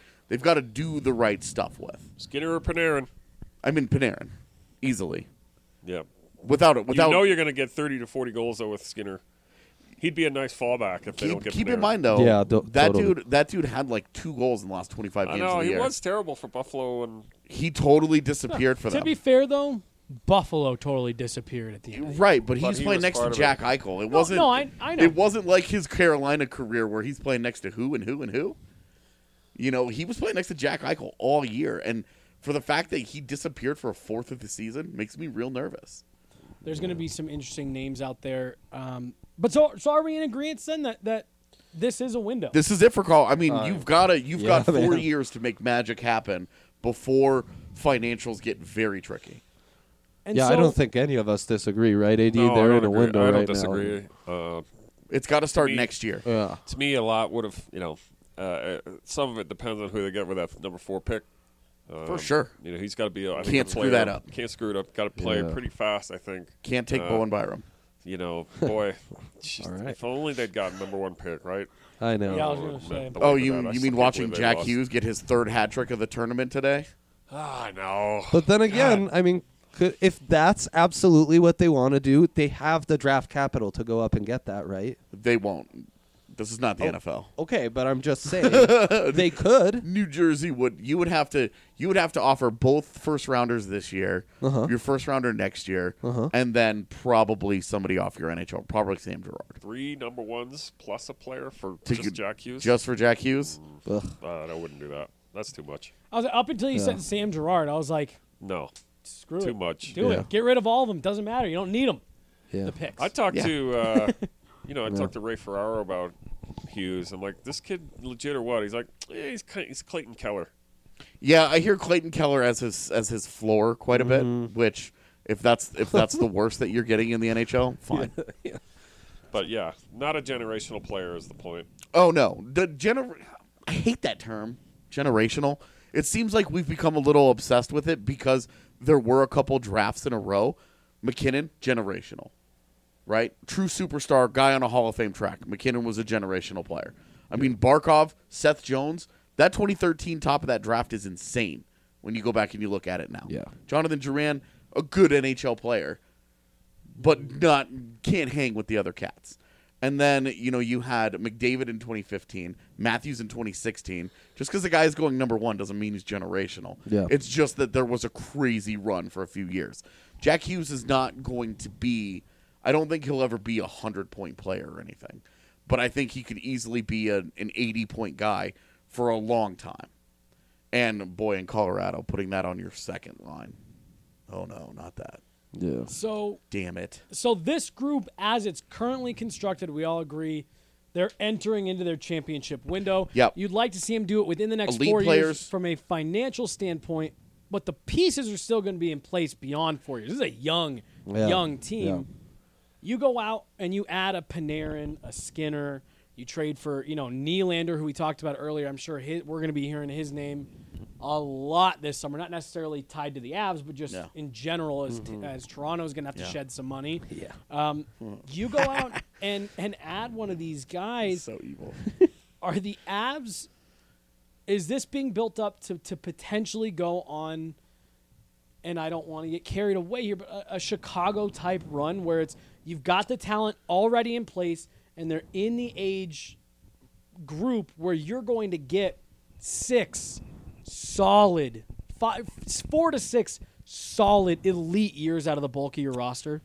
to do the right stuff with. Skinner or Panarin? I mean, Panarin, easily, Yeah. without You know you're going to get 30 to 40 goals though with Skinner. He'd be a nice fallback if they don't get keep Panarin. in mind though, Yeah, that totally. dude had like 2 goals in the last 25 I games know of the he year. was terrible for Buffalo, and He totally disappeared for To them. be fair, though, Buffalo totally disappeared at the end. Right, but But he's he playing was next to part of Jack it. Eichel. It wasn't. no, I know. It wasn't like his Carolina career where he's playing next to who and who and who. You know, he was playing next to Jack Eichel all year, and for the fact that he disappeared for a fourth of the season makes me real nervous. There's going to be some interesting names out there. But so are we in agreement then that this is a window? This is it for Carl. I mean, you've got 4 man. years to make magic happen before financials get very tricky. And Yeah, so, I don't think any of us disagree, right, AD? no, They're I in don't a agree. window I don't right disagree. It's got to start me- next year. now. Yeah. To me, a lot would have, some of it depends on who they get with that number 4 pick. For sure. You know, he's got to be. I think Can't a screw player- that up. Can't screw it up. Got to play Yeah. pretty fast. I think. Can't take Bowen Byram. You know, boy. Just, All right. If only they'd gotten number 1 pick, right? I know. Yeah, I was going to say. The Oh, way for you that, I you still mean can't watching believe they Jack lost. Hughes get his 3rd hat trick of the tournament today? I know. But then again, I mean, if that's absolutely what they want to do, they have the draft capital to go up and get that, right? They won't. This is not the NFL. Okay, but I'm just saying they could. New Jersey would have to offer both first rounders this year, your first rounder next year, and then probably somebody off your NHL, probably Sam Girard. 3 number 1s plus a player for To just get- Jack Hughes. Just for Jack Hughes? Ugh. I wouldn't do that. That's too much. I was up until you said Sam Girard. I was like, No. screw it. Too much. Do Yeah. it. Get rid of all of them. Doesn't matter. You don't need them. Yeah. The picks. I talked Yeah. to, I talked to Ray Ferraro about Hughes. I'm like, this kid legit or what? He's like, yeah, he's Clayton Keller. Yeah, I hear Clayton Keller as his floor quite a bit, which if that's the worst that you're getting in the NHL, fine. But yeah, not a generational player is the point. Oh no, I hate that term, generational. It seems like we've become a little obsessed with it because there were a couple drafts in a row. McKinnon, generational, right? True superstar, guy on a Hall of Fame track. McKinnon was a generational player. I mean, Barkov, Seth Jones, that 2013 top of that draft is insane when you go back and you look at it now. Yeah. Jonathan Duran, a good NHL player, but can't hang with the other cats. And then, you had McDavid in 2015, Matthews in 2016. Just because the guy is going number 1 doesn't mean he's generational. Yeah. It's just that there was a crazy run for a few years. Jack Hughes is not going to be, I don't think he'll ever be a 100-point player or anything. But I think he could easily be an 80-point guy for a long time. And, boy, in Colorado, putting that on your second line. Oh, no, not that. Yeah. So Damn it. So this group, as it's currently constructed, we all agree they're entering into their championship window. Yep. You'd like to see them do it within the next Elite 4 players. years from a financial standpoint, but the pieces are still going to be in place beyond 4 years. This is a young team. Yeah. You go out and you add a Panarin, a Skinner. You trade for, Nylander, who we talked about earlier. I'm sure we're going to be hearing his name a lot this summer. Not necessarily tied to the Avs, but just in general as Toronto's going to have to shed some money. Yeah. You go out and add one of these guys. So evil. Are the Avs, is this being built up to potentially go on, and I don't want to get carried away here, but a Chicago-type run where it's you've got the talent already in place, and they're in the age group where you're going to get 4 to 6 solid elite years out of the bulk of your roster?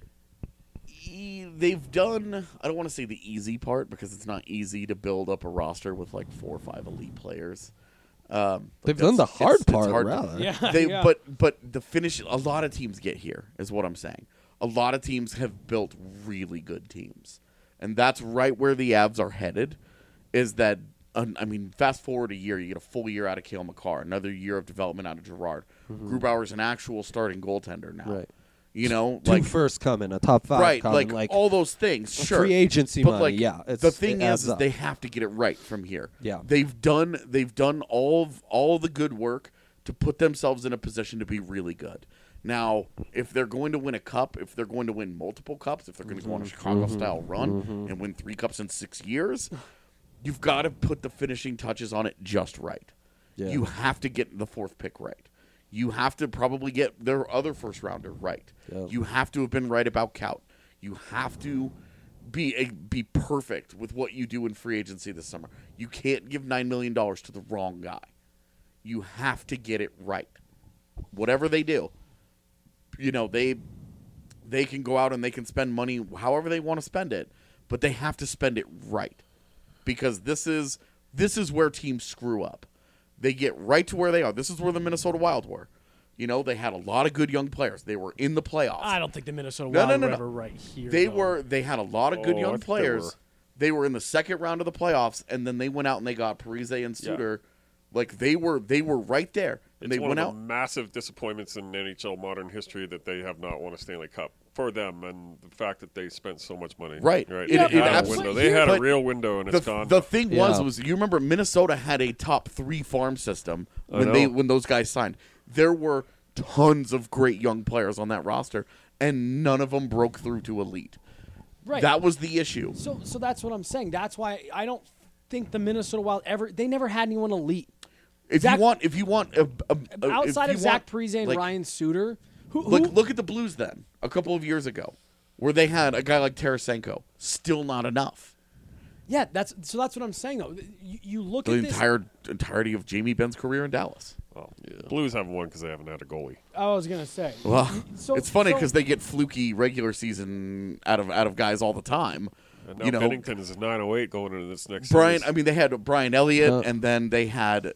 They've done, I don't want to say the easy part because it's not easy to build up a roster with like 4 or 5 elite players. They've done the hard part, hard. rather. Yeah. But the finish, a lot of teams get here, is what I'm saying. A lot of teams have built really good teams. And that's right where the Avs are headed, is that, fast forward a year, you get a full year out of Cale Makar, another year of development out of Gerard. Grubauer's an actual starting goaltender now. Right. You know, Two first coming, a top 5 right, coming, like all those things. Sure, free agency but money. The thing is they have to get it right from here. Yeah, they've done all the good work to put themselves in a position to be really good. Now, if they're going to win a cup, if they're going to win multiple cups, if they're going to go on a Chicago-style run and win 3 cups in 6 years, you've got to put the finishing touches on it just right. Yeah. You have to get the 4th pick right. You have to probably get their other first rounder right. Yep. You have to have been right about Kaut. You have to be perfect with what you do in free agency this summer. You can't give $9 million to the wrong guy. You have to get it right. Whatever they do, you know, they can go out and they can spend money however they want to spend it, but they have to spend it right. Because this is where teams screw up. They get right to where they are. This is where the Minnesota Wild were. You know, they had a lot of good young players. They were in the playoffs. I don't think the Minnesota Wild were ever right here. They had a lot of good young players. They were in the second round of the playoffs, and then they went out and they got Parise and Suter. Yeah. Like they were right there. And it's they one went of out. the massive disappointments in NHL modern history that they have not won a Stanley Cup for them, and the fact that they spent so much money. Right. Yeah, They had a real window, and it's gone. The thing was you remember Minnesota had a top 3 farm system when those guys signed. There were tons of great young players on that roster, and none of them broke through to elite. Right. That was the issue. So that's what I'm saying. That's why I don't think the Minnesota Wild they never had anyone elite. If you want outside of Zach Parise and Ryan Suter, look at the Blues then a couple of years ago, where they had a guy like Tarasenko, still not enough. Yeah, that's what I'm saying though. You look the at this entirety of Jamie Benn's career in Dallas. Well, Blues haven't won because they haven't had a goalie. I was gonna say. Well, it's funny because they get fluky regular season out of guys all the time. And now Bennington is 908 going into this next series. series. They had Brian Elliott, and then they had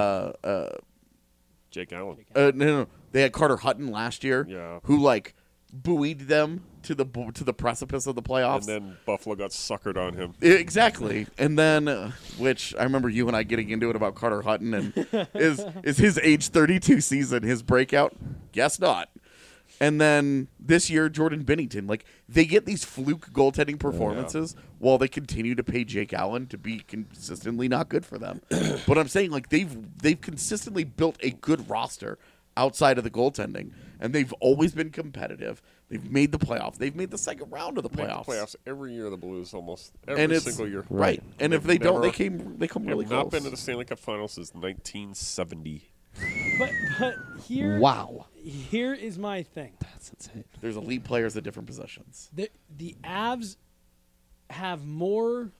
Jake Allen. No, they had Carter Hutton last year, who buoyed them to the precipice of the playoffs. And then Buffalo got suckered on him. Exactly. And then, which I remember you and I getting into it about Carter Hutton, and is his age 32 season his breakout? Guess not. And then this year, Jordan Binnington. They get these fluke goaltending performances while they continue to pay Jake Allen to be consistently not good for them. But I'm saying, they've consistently built a good roster outside of the goaltending, and they've always been competitive. They've made the playoffs. They've made the second round of the playoffs. Made the playoffs every year. The Blues almost every single year. Right. And if they don't, they come really close. Not been to the Stanley Cup Finals since 1970. But here, here is my thing. That's insane. There's elite players at different positions. The Avs have more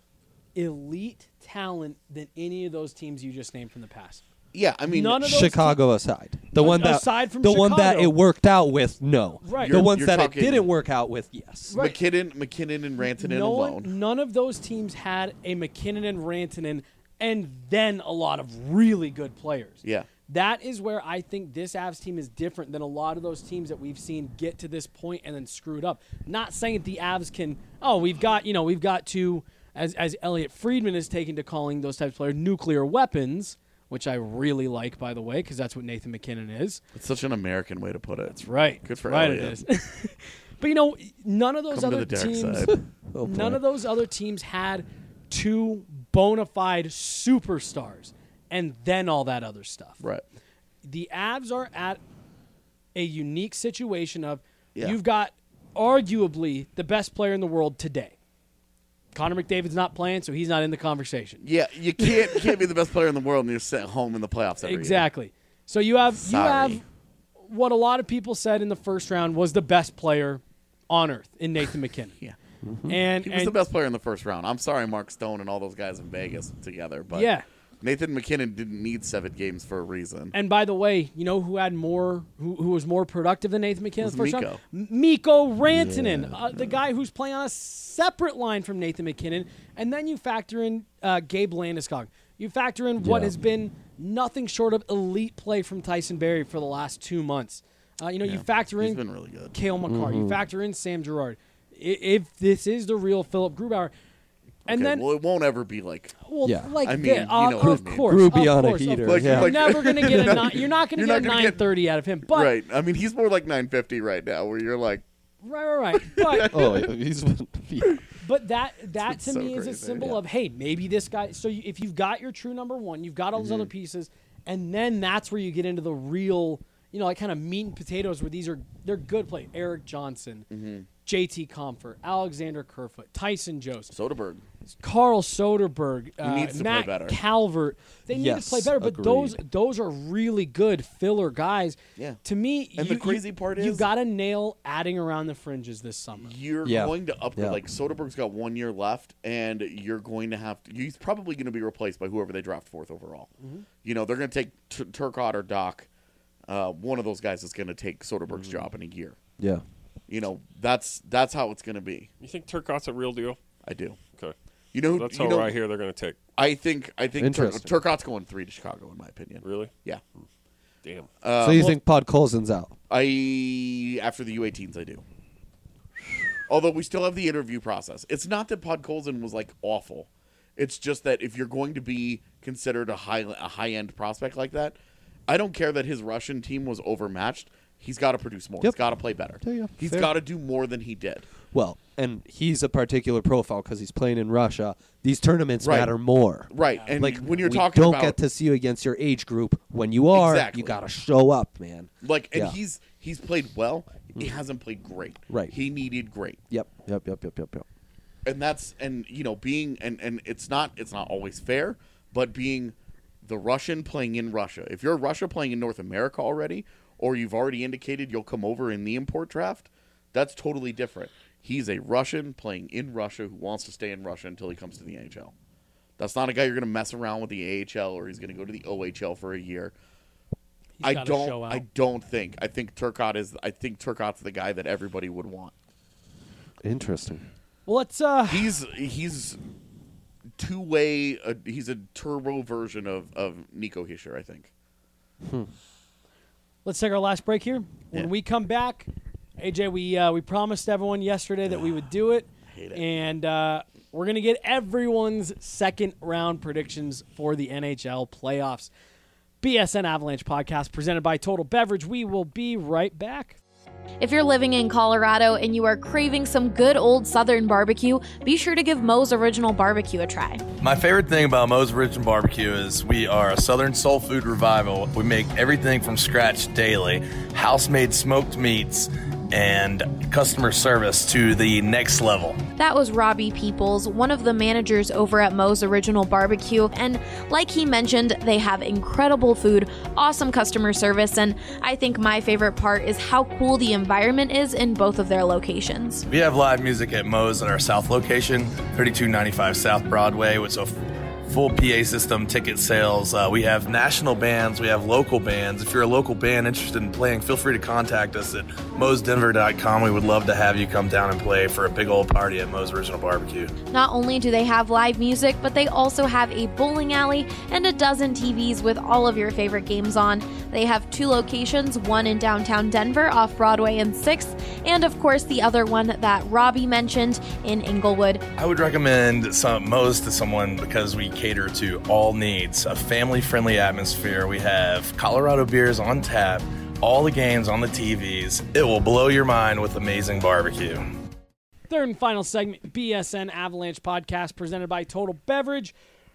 elite talent than any of those teams you just named from the past. Yeah, none of those Chicago aside, the one that one that it worked out with, no. Right. The ones that it didn't work out with, yes. Right. McKinnon and Rantanen alone. None of those teams had a McKinnon and Rantanen, and then a lot of really good players. Yeah. That is where I think this Avs team is different than a lot of those teams that we've seen get to this point and then screwed up. Not saying that the Avs can. We've got to, as Elliot Friedman has taken to calling those types of players, nuclear weapons, which I really like, by the way, because that's what Nathan McKinnon is. It's such an American way to put it. That's right. Good for right Elliot. It is. But none of those other teams, none of those other teams had 2 bona fide superstars. And then all that other stuff. Right. The Avs are at a unique situation of you've got arguably the best player in the world today. Connor McDavid's not playing, so he's not in the conversation. Yeah, you can't be the best player in the world and you're sitting home in the playoffs every year. So you have what a lot of people said in the first round was the best player on earth in Nathan McKinnon. Yeah. Mm-hmm. And he was the best player in the first round. I'm sorry, Mark Stone and all those guys in Vegas together, but Nathan McKinnon didn't need 7 games for a reason. And by the way, you know who had more, who was more productive than Nathan McKinnon Was the first Mikko. round? Mikko Rantanen, the guy who's playing on a separate line from Nathan McKinnon. And then you factor in Gabe Landeskog. You factor in what has been nothing short of elite play from Tyson Barrie for the last 2 months. You factor in He's been really good. Cale Makar. You factor in Sam Girard. If this is the real Philip Grubauer, and Okay, then well, it won't ever be like. like I mean, this, you know what I of mean. course, Groovy of on a course, of heater, course. yeah. You're never gonna get You're a not- you're not gonna you're get not a gonna get- 930 out of him. But Right. I mean, he's more like 950 right now, where you're like, right. But Oh, he's But that It's to so me is a crazy. symbol of, hey, maybe this guy. So if you've got your true number one, you've got all those other pieces, and then that's where you get into the real, like kind of meat and potatoes where they're good play. Eric Johnson, JT Comfort, Alexander Kerfoot, Tyson Jost, Soderbergh. Carl Soderberg, He needs to Matt play better. Calvert. They need to Yes, play better, but agreed. those are really good filler guys. Yeah. To me, And the crazy part you is- got to nail adding around the fringes this summer. You're Yeah. going to upgrade. Yeah. Like, Soderbergh's got 1 year left, and you're going to have to. He's probably going to be replaced by whoever they draft 4th overall. They're going to take Turcotte or Doc. One of those guys is going to take Soderbergh's job in a year. yeah. That's how it's going to be. You think Turcotte's a real deal? I do. Okay. you That's how know, I hear they're going to take. I think Interesting. Turcotte's going 3 to Chicago, in my opinion. Really? Yeah. Damn. So you think Podkolzin's out? After the U18s, I do. Although we still have the interview process. It's not that Podkolzin was like awful. It's just that if you're going to be considered a high end prospect like that, I don't care that his Russian team was overmatched. He's got to produce more. Yep. He's got to play better. Yeah, He's fair. got to do more than he did. Well, and he's a particular profile because he's playing in Russia. These tournaments Right. matter more. Right. And Like when you're we talking don't about get to see you against your age group. When you are, Exactly. you got to show up, man. like, and Yeah. he's played well. He hasn't played great. Right. He needed great. Yep. And that's being and it's not always fair, but being the Russian playing in Russia. If you're Russia playing in North America already, or you've already indicated you'll come over in the import draft, that's totally different. He's a Russian playing in Russia who wants to stay in Russia until he comes to the NHL. That's not a guy you're going to mess around with the AHL or he's going to go to the OHL for a year. He's gotta show out. I think Turcotte's the guy that everybody would want. Interesting. Well, let's He's two-way. He's a turbo version of Nico Hischier, I think. Let's take our last break here. When Yeah. we come back, AJ, we promised everyone yesterday that we would do it, hate it. and we're gonna get everyone's second round predictions for the NHL playoffs. BSN Avalanche podcast presented by Total Beverage. We will be right back. If you're living in Colorado and you are craving some good old Southern barbecue, be sure to give Moe's Original Barbecue a try. My favorite thing about Moe's Original Barbecue is we are a Southern soul food revival. We make everything from scratch daily, house-made smoked meats, and customer service to the next level. That was Robbie Peoples, one of the managers over at Moe's Original Barbecue, and like he mentioned, they have incredible food, awesome customer service, and I think my favorite part is how cool the environment is in both of their locations. We have live music at Moe's at our South location, 3295 South Broadway, with a full PA system, ticket sales. We have national bands. We have local bands. If you're a local band interested in playing, feel free to contact us at moesdenver.com. We would love to have you come down and play for a big old party at Moe's Original Barbecue. Not only do they have live music, but they also have a bowling alley and a dozen TVs with all of your favorite games on. They have 2 locations, one in downtown Denver off Broadway and 6th, and of course the other one that Robbie mentioned in Inglewood. I would recommend Moe's to someone because we cater to all needs, a family-friendly atmosphere. We have Colorado beers on tap, all the games on the TVs. It will blow your mind with amazing barbecue. Third and final segment, BSN Avalanche podcast presented by Total Beverage.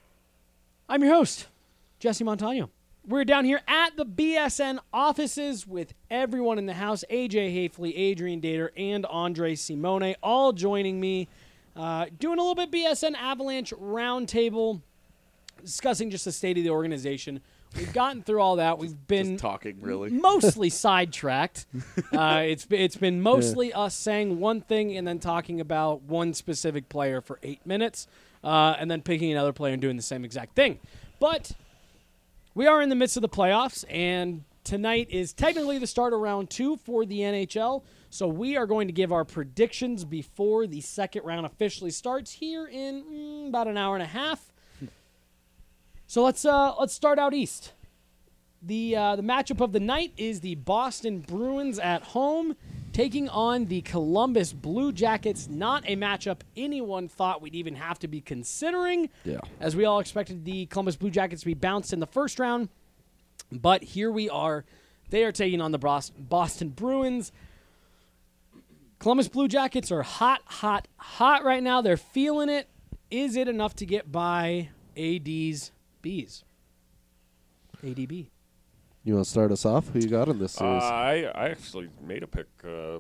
I'm your host, Jesse Montano. We're down here at the BSN offices with everyone in the house, AJ Hafley, Adrian Dater, and Andre Simone, all joining me, doing a little bit BSN Avalanche roundtable, discussing just the state of the organization. We've gotten through all that. We've been Just talking, really. mostly sidetracked. It's been mostly us saying one thing and then talking about one specific player for 8 minutes, and then picking another player and doing the same exact thing. But we are in the midst of the playoffs, and tonight is technically the start of round 2 for the NHL. So we are going to give our predictions before the second round officially starts here in about an hour and a half. So let's start out east. The matchup of the night is the Boston Bruins at home taking on the Columbus Blue Jackets. Not a matchup anyone thought we'd even have to be considering, as we all expected the Columbus Blue Jackets to be bounced in the first round. But here we are. They are taking on the Boston Bruins. Columbus Blue Jackets are hot right now. They're feeling it. Is it enough to get by AD's Bees? ADB. You want to start us off? Who you got in this series? I actually made a pick for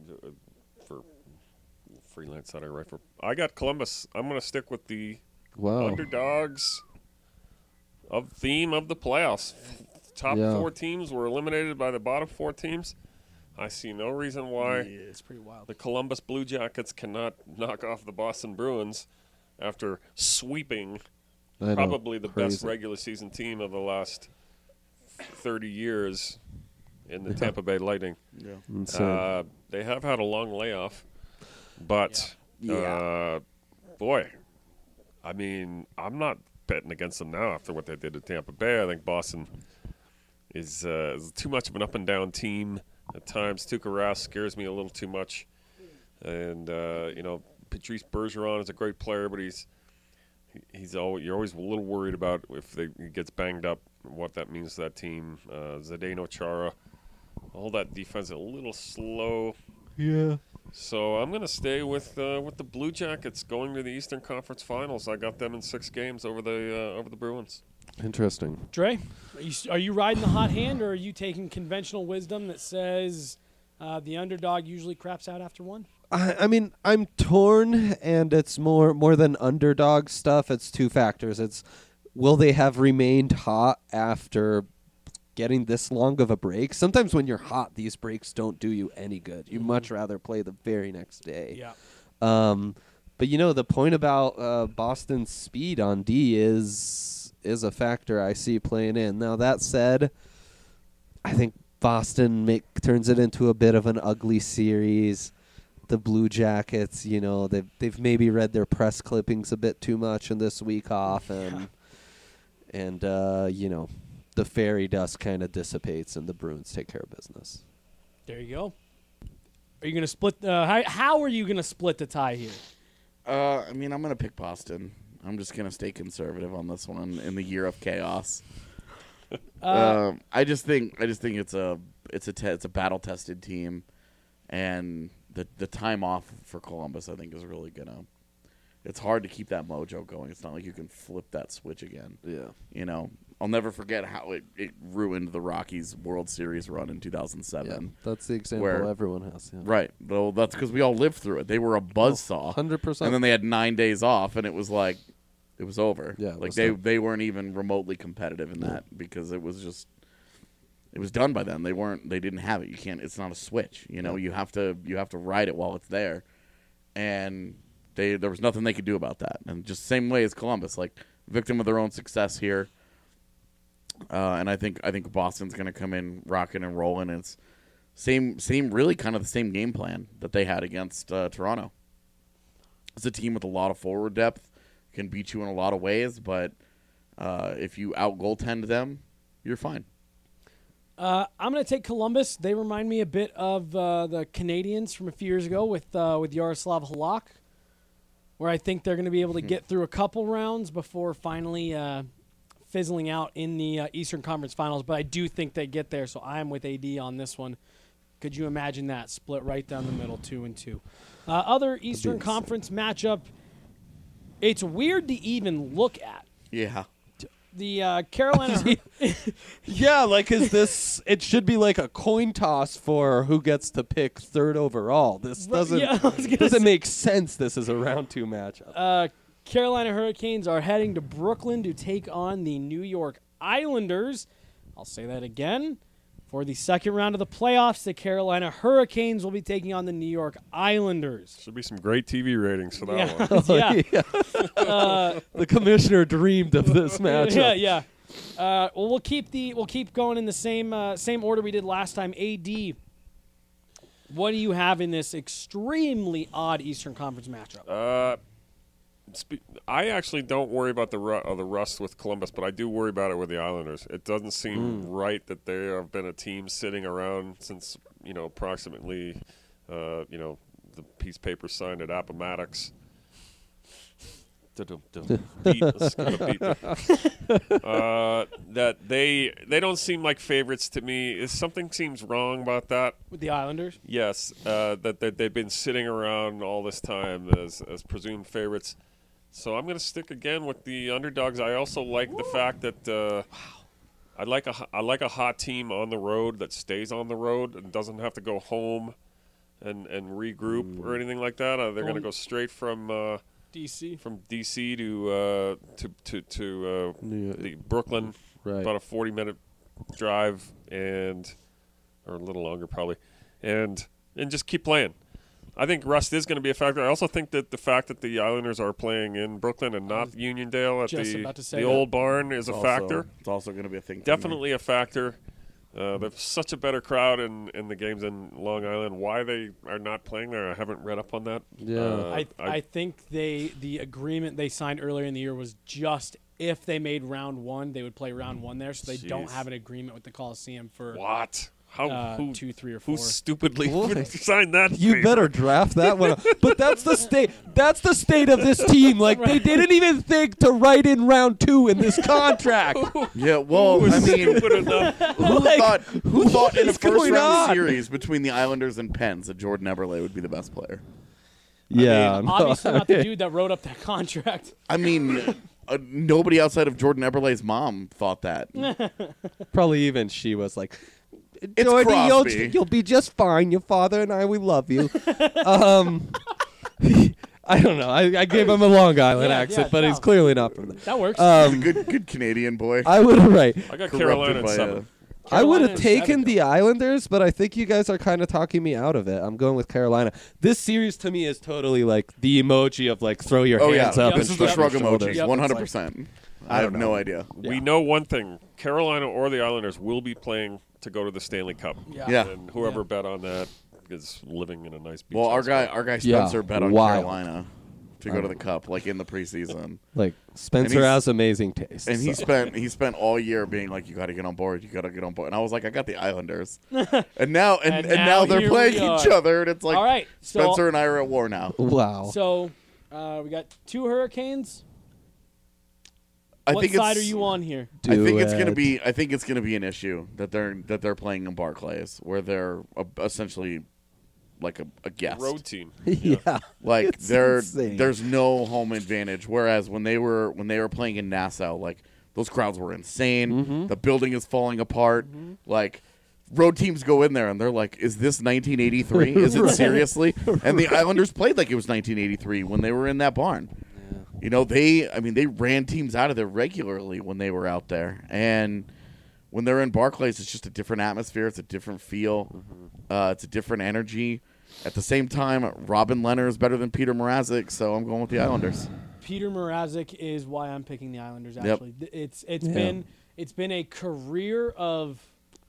freelance that I write for. I got Columbus. I'm going to stick with the underdogs of theme of the playoffs. Top 4 teams were eliminated by the bottom 4 teams. I see no reason why it's pretty wild. The Columbus Blue Jackets cannot knock off the Boston Bruins after sweeping probably the best regular season team of the last 30 years in the Tampa Bay Lightning. They have had a long layoff, but boy, I mean, I'm not betting against them now after what they did to Tampa Bay. I think Boston is too much of an up and down team at times. Tuukka Rask scares me a little too much, and Patrice Bergeron is a great player, but you're always a little worried about if he gets banged up, what that means to that team. Zdeno Chara, all that defense a little slow. Yeah. So I'm going to stay with the Blue Jackets going to the Eastern Conference Finals. I got them in 6 games over the Bruins. Interesting. Dre, are you riding the hot hand, or are you taking conventional wisdom that says the underdog usually craps out after 1? I mean, I'm torn, and it's more than underdog stuff. It's 2 factors. It's will they have remained hot after getting this long of a break? Sometimes when you're hot, these breaks don't do you any good. You much rather play the very next day. Yeah. But the point about Boston's speed on D is a factor I see playing in. Now that said, I think Boston turns it into a bit of an ugly series. The Blue Jackets, they've maybe read their press clippings a bit too much in this week off, and the fairy dust kind of dissipates and the Bruins take care of business. There you go. Are you going to split? How are you going to split the tie here? I mean, I'm going to pick Boston. I'm just going to stay conservative on this one in the year of chaos. I just think it's a battle tested team, and the time off for Columbus I think is really gonna. It's hard to keep that mojo going. It's not like you can flip that switch again. Yeah. I'll never forget how it ruined the Rockies' World Series run in 2007. Yeah, that's the example everyone has. Yeah. Right. Well, that's because we all lived through it. They were a buzzsaw. 100%. And then they had 9 days off, and it was like, it was over. Yeah. Like they weren't even remotely competitive in that because it was just, it was done by then. They didn't have it. You can't. It's not a switch. You have to ride it while it's there, and there was nothing they could do about that. And just same way as Columbus, like victim of their own success here. And I think Boston's going to come in rocking and rolling. And it's same really kind of the same game plan that they had against Toronto. It's a team with a lot of forward depth, can beat you in a lot of ways, but if you out goaltend them, you're fine. I'm going to take Columbus. They remind me a bit of the Canadians from a few years ago with Yaroslav Halak, where I think they're going to be able to get through a couple rounds before finally fizzling out in the Eastern Conference Finals. But I do think they get there, so I'm with AD on this one. Could you imagine that split right down the middle, 2-2? Other Eastern Conference matchup, it's weird to even look at. Yeah. The Carolina. Yeah, like it should be like a coin toss for who gets to pick 3rd overall. This doesn't make sense. This is a round 2 matchup. Carolina Hurricanes are heading to Brooklyn to take on the New York Islanders. I'll say that again For the second round of the playoffs, the Carolina Hurricanes will be taking on the New York Islanders. Should be some great TV ratings for that one. Yeah. The commissioner dreamed of this matchup. Yeah. Well, we'll keep going in the same order we did last time. AD, what do you have in this extremely odd Eastern Conference matchup? I actually don't worry about the rust with Columbus, but I do worry about it with the Islanders. It doesn't seem right that they have been a team sitting around since approximately the piece of paper signed at Appomattox. That they don't seem like favorites to me. Something seems wrong about that with the Islanders. Yes, that they've been sitting around all this time as presumed favorites. So I'm going to stick again with the underdogs. I also like the fact that I like a hot team on the road that stays on the road and doesn't have to go home and regroup or anything like that. They're going to go straight from DC to the Brooklyn, about a 40-minute drive or a little longer probably, and just keep playing. I think rust is going to be a factor. I also think that the fact that the Islanders are playing in Brooklyn and not Uniondale at the old barn is a factor. It's also going to be a thing. Definitely a factor. There's such a better crowd in the games in Long Island. Why they are not playing there, I haven't read up on that. Yeah, I think the agreement they signed earlier in the year was just if they made round one, they would play round one there. So they don't have an agreement with the Coliseum for what? Who 2, 3, or 4? Who stupidly signed that? You paper? better draft that one. But that's the state. That's the state of this team. Like they didn't even think to write in round 2 in this contract. Yeah, well, I mean, who thought in a first round series between the Islanders and Pens that Jordan Eberle would be the best player? Yeah, obviously not the dude that wrote up that contract. I mean, nobody outside of Jordan Eberle's mom thought that. Probably even she was like, It's Crosby. You'll be just fine. Your father and I, we love you. I don't know. I gave him a Long Island accent, but he's clearly not from there. That works. He's a good Canadian boy. I would I got Carolina at 7. I would have taken the Islanders, but I think you guys are kind of talking me out of it. I'm going with Carolina. This series to me is totally like the emoji of like throw your hands up. This is the shrug emoji, Yep. 100%. I have no idea. We know one thing: Carolina or the Islanders will be playing to go to the Stanley Cup. Yeah. And whoever bet on that is living in a nice beach. Well, our house. guy Spencer bet on Carolina to go to the Cup, like in the preseason. Like Spencer has amazing taste, and he spent all year being like, "You got to get on board. You got to get on board." And I was like, "I got the Islanders," and now they're playing each other, and it's like, all right, Spencer and I are at war now. Wow. So we got 2 Hurricanes. What What side are you on here? I think it's gonna be an issue that they're playing in Barclays, where they're essentially like a guest road team. Yeah. Like It's insane. there's no home advantage. Whereas when they were playing in Nassau, like those crowds were insane. Mm-hmm. The building is falling apart. Like road teams go in there and they're like, "Is this 1983? Is it seriously?" And the Islanders played like it was 1983 when they were in that barn. You know, they ran teams out of there regularly when they were out there. And when they're in Barclays, it's just a different atmosphere. It's a different feel. It's a different energy. At the same time, Robin Lehner is better than Peter Mrazek, so I'm going with the Islanders. Peter Mrazek is why I'm picking the Islanders, Yep. actually. It's been a career of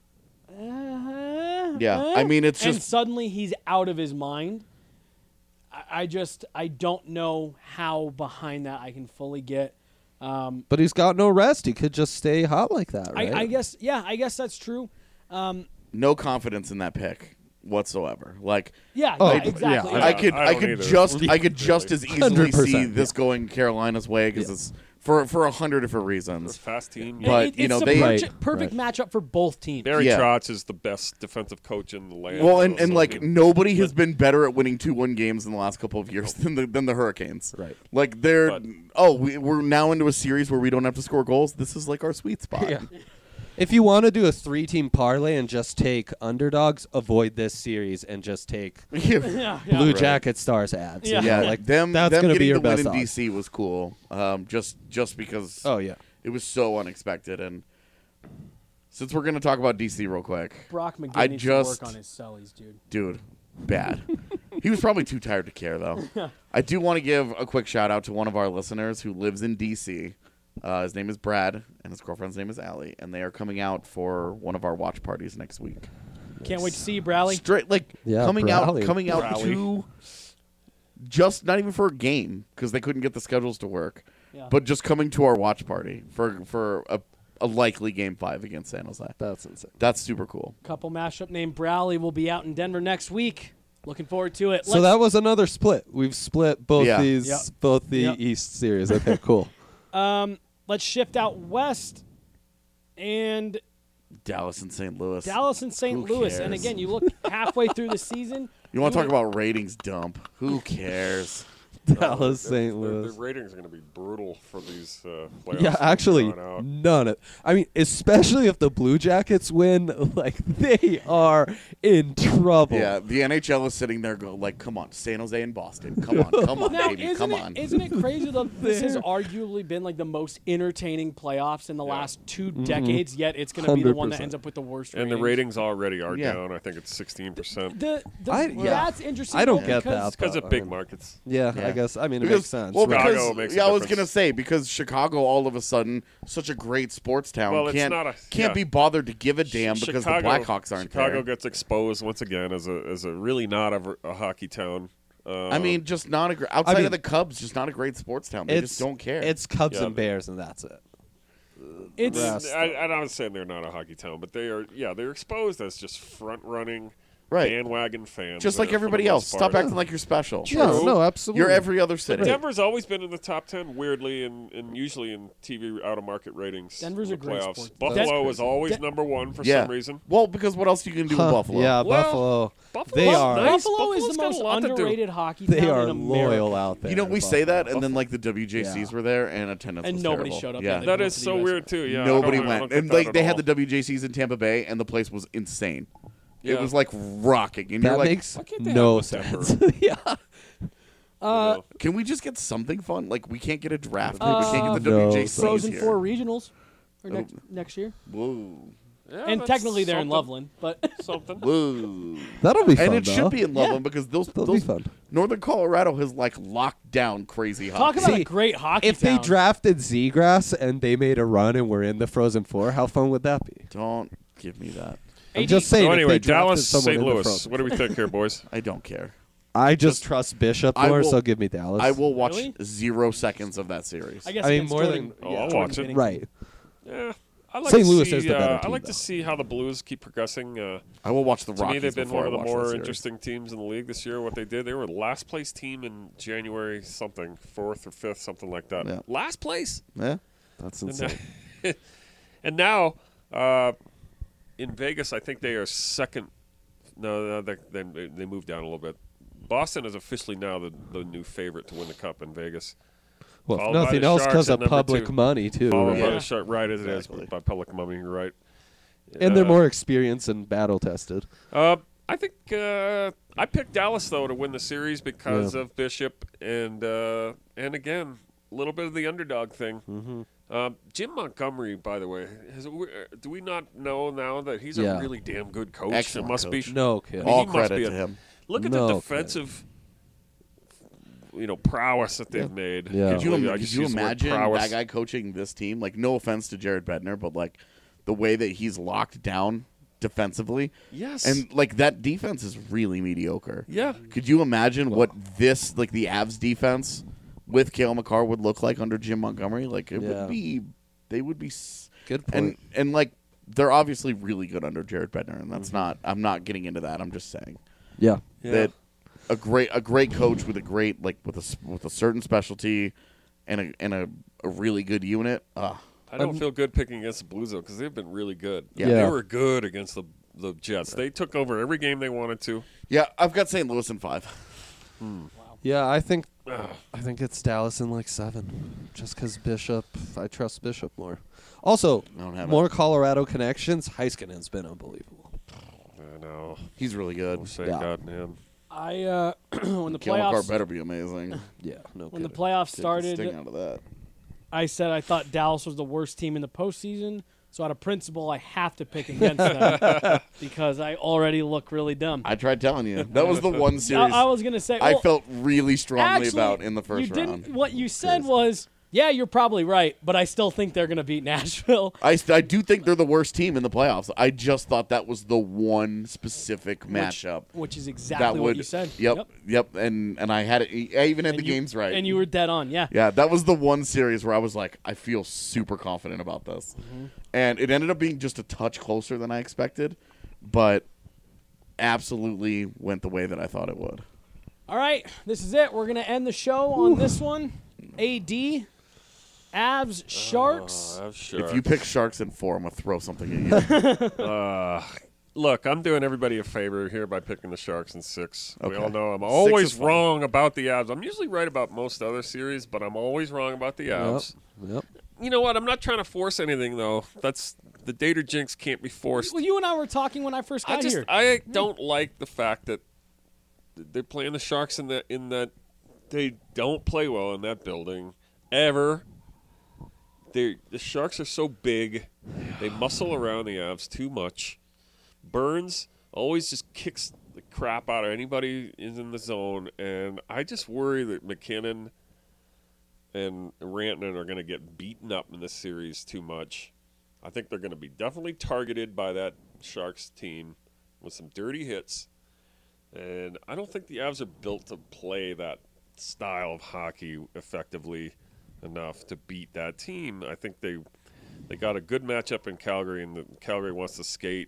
I mean, it's and just suddenly he's out of his mind. I don't know how behind that I can fully get. But he's got no rest. He could just stay hot like that, right? I guess that's true. no confidence in that pick whatsoever. Like, exactly. I could just as easily 100%, see this going Carolina's way because it's for 100 different reasons. Fast team. But it's you know, the perfect matchup for both teams. Barry Trotz is the best defensive coach in the land. Well, and like nobody has been better at winning 2-1 games in the last couple of years than the Hurricanes. Right. Like we're now into a series where we don't have to score goals. This is like our sweet spot. Yeah. If you want to do a 3-team parlay and just take underdogs, avoid this series and just take Blue Jacket Stars ads. Yeah. You know, like them that's going to be your getting the best win in odds. DC was cool. Just because Oh yeah. it was so unexpected and Since we're going to talk about DC real quick. Brock McGinn I needs just- to work on his cellies, dude. Dude, bad. He was probably too tired to care, though. I do want to give a quick shout-out to one of our listeners who lives in D.C. His name is Brad, and his girlfriend's name is Allie, and they are coming out for one of our watch parties next week. Can't wait to see you, Bradley. Straight, like, Yeah, coming Bradley. out Bradley. to just not even for a game, because they couldn't get the schedules to work, Yeah. but just coming to our watch party for a likely Game 5 against San Jose. That's insane. That's super cool. Couple mashup named Bradley will be out in Denver next week. Looking forward to it. So that was another split. We've split both Yeah. these, Yep. both the Yep. East series. Okay, cool. Let's shift out west and Dallas and St. Louis. Dallas and St. Who Louis. And cares? again, you look halfway through the season. You want to talk about ratings dump? Who cares? Dallas, St. The Louis. ratings are going to be brutal for these playoffs. Yeah, actually, drawn out. none of. I mean, especially if the Blue Jackets win, like they are in trouble. Yeah, the NHL is sitting there going, like, come on, San Jose and Boston. Come on, Now, baby, come on. isn't it crazy that this has arguably been like the most entertaining playoffs in the last 2 decades, yet it's going to be the one that 100%. ends up with the worst And the ratings already are Yeah. down. I think it's 16%. That's interesting. I don't though, get because that. Because of big markets. Yeah, Yeah. I guess. I mean, it Because, makes sense. well, right? Chicago because, makes a yeah, I was difference. gonna say because Chicago, all of a sudden, such a great sports town, Well, it's can't not a- can't yeah. be bothered to give a damn because the Blackhawks aren't Chicago there. gets exposed once again as a really not a hockey town. I mean, just not a outside mean- of the Cubs, just not a great sports town. They just don't care. It's Cubs Yeah. and Bears, and that's it. it's Rest. I'm not saying they're not a hockey town, but they are. Yeah, they're exposed as just front running, Right. bandwagon fans. just like for the everybody most else. Stop part. acting like you're special. Yeah, no, absolutely. You're every other city. Denver's always been in the top 10, weirdly, and usually in TV out-of-market ratings. Denver's in a the great playoffs. sport. Buffalo is always Den- number one for Yeah. some reason. Well, because what else you can do Huh, with Buffalo? Yeah, Well, Buffalo. Buffalo's They are. nice. Buffalo is Buffalo's the got a most lot to do. underrated hockey They town are in America. loyal out there. You know, we say Buffalo. that, and then like the WJCs Buffalo. were there, and attendance And was nobody terrible. showed up. Yeah, They That went is to the so US. weird too. Yeah, nobody I don't went, get and that like at they all. had the WJCs in Tampa Bay, and the place was insane. Yeah. It was like rocking, and That you're like, makes Why can't they no have it in sense. yeah. can we just get something fun? Like we can't get a draft. we Uh, can't get the no. WJCs Frozen here. Four regionals or next year. Whoa, Yeah, And that's technically they're in something. Loveland, but Something. whoa, That'll be fun. and it though. should be in Loveland because That'll be those fun. Northern Colorado has like locked down crazy talk hockey. about See, a great hockey If town. they drafted Zegras and they made a run and were in the Frozen Four, how fun would that be? Don't give me that. I'm just saying. So if anyway, they drafted Dallas, someone St. in the Louis. Frozen- What do we think here, boys? I don't care. I just trust Bishop I more, will- so give me Dallas. I will watch Really? 0 seconds of that series. I guess I mean, against more Jordan- than- Oh, I'll Jordan watch it. Binnington. Right. Yeah. I like St. to Louis see, is the better I team, like to though. see how the Blues keep progressing. I will watch the To Rockies me, they've been before one of I the watch that more series. interesting teams in the league this year. What they did, they were last place team in January something, 4th or 5th, something like that. Yeah. Last place. Yeah, that's insane. And now, in Vegas, I think they are second. No, they moved down a little bit. Boston is officially now the new favorite to win the Cup in Vegas. Well, if Followed by nothing the else, Sharks because at of number public 2. money too. Followed Right? by Yeah. the Shark, right as Exactly. it is, by public money, you're right. And they're more experienced and battle tested. I think I picked Dallas though to win the series because of Bishop and again a little bit of the underdog thing. Mm-hmm. Jim Montgomery, by the way, do we not know now that he's Yeah. a really damn good coach? Excellent it must coach. be. No kidding. I mean, All he must credit be to him. Look at No the kidding. defensive, prowess that they've made. Yeah. Could you, I could just you use the word imagine prowess. that guy coaching this team? Like, no offense to Jared Bednar, but like the way that he's locked down defensively, Yes. and like that defense is really mediocre. Yeah. Could you imagine what this like the Avs defense with Cale Makar would look like under Jim Montgomery? Like it Yeah. would be, they would be. Good point. And like they're obviously really good under Jared Bednar, and that's not. I'm not getting into that. I'm just saying Yeah. that a great coach with a great like with a certain specialty and a really good unit. I don't feel good picking against the Blues though because they've been really good. Yeah. They Yeah. were good against the Jets. They took over every game they wanted to. Yeah, I've got St. Louis in 5. Yeah, I think it's Dallas in like 7, just because Bishop. I trust Bishop more. Also, I don't have more Colorado connections. Heiskanen's been unbelievable. I know. He's really good. We'll say Yeah. God, man. I when the Cale Makar playoffs better be amazing. Yeah, no when the kidding. playoffs Take the started, sting out of that. I said I thought Dallas was the worst team in the postseason. So out of principle, I have to pick against them because I already look really dumb. I tried telling you. That was the one series I was going to say. I well, felt really strongly actually, about in the first you round. Didn't, what you said was, yeah, you're probably right, but I still think they're going to beat Nashville. I do think they're the worst team in the playoffs. I just thought that was the one specific matchup. Which is exactly what you said. Yep. And I had it. I even had the games right. And you were dead on, yeah. Yeah, that was the one series where I was like, I feel super confident about this. Mm-hmm. And it ended up being just a touch closer than I expected, but absolutely went the way that I thought it would. All right, this is it. We're going to end the show on this one. AD. Avs, Sharks. If you pick Sharks in 4, I'm going to throw something at you. Look, I'm doing everybody a favor here by picking the Sharks in 6. Okay. We all know I'm 6 always is fine. wrong about the Avs. I'm usually right about most other series, but I'm always wrong about the Avs. Yep. You know what? I'm not trying to force anything, though. That's the Dater jinx can't be forced. Well, you and I were talking when I first got here. I don't like the fact that they're playing the Sharks in that they don't play well in that building ever. The Sharks are so big. They muscle around the Avs too much. Burns always just kicks the crap out of anybody who's in the zone, and I just worry that McKinnon and Rantanen are going to get beaten up in this series too much. I think they're going to be definitely targeted by that Sharks team with some dirty hits, and I don't think the Avs are built to play that style of hockey effectively enough to beat that team. I think they got a good matchup in Calgary, and Calgary wants to skate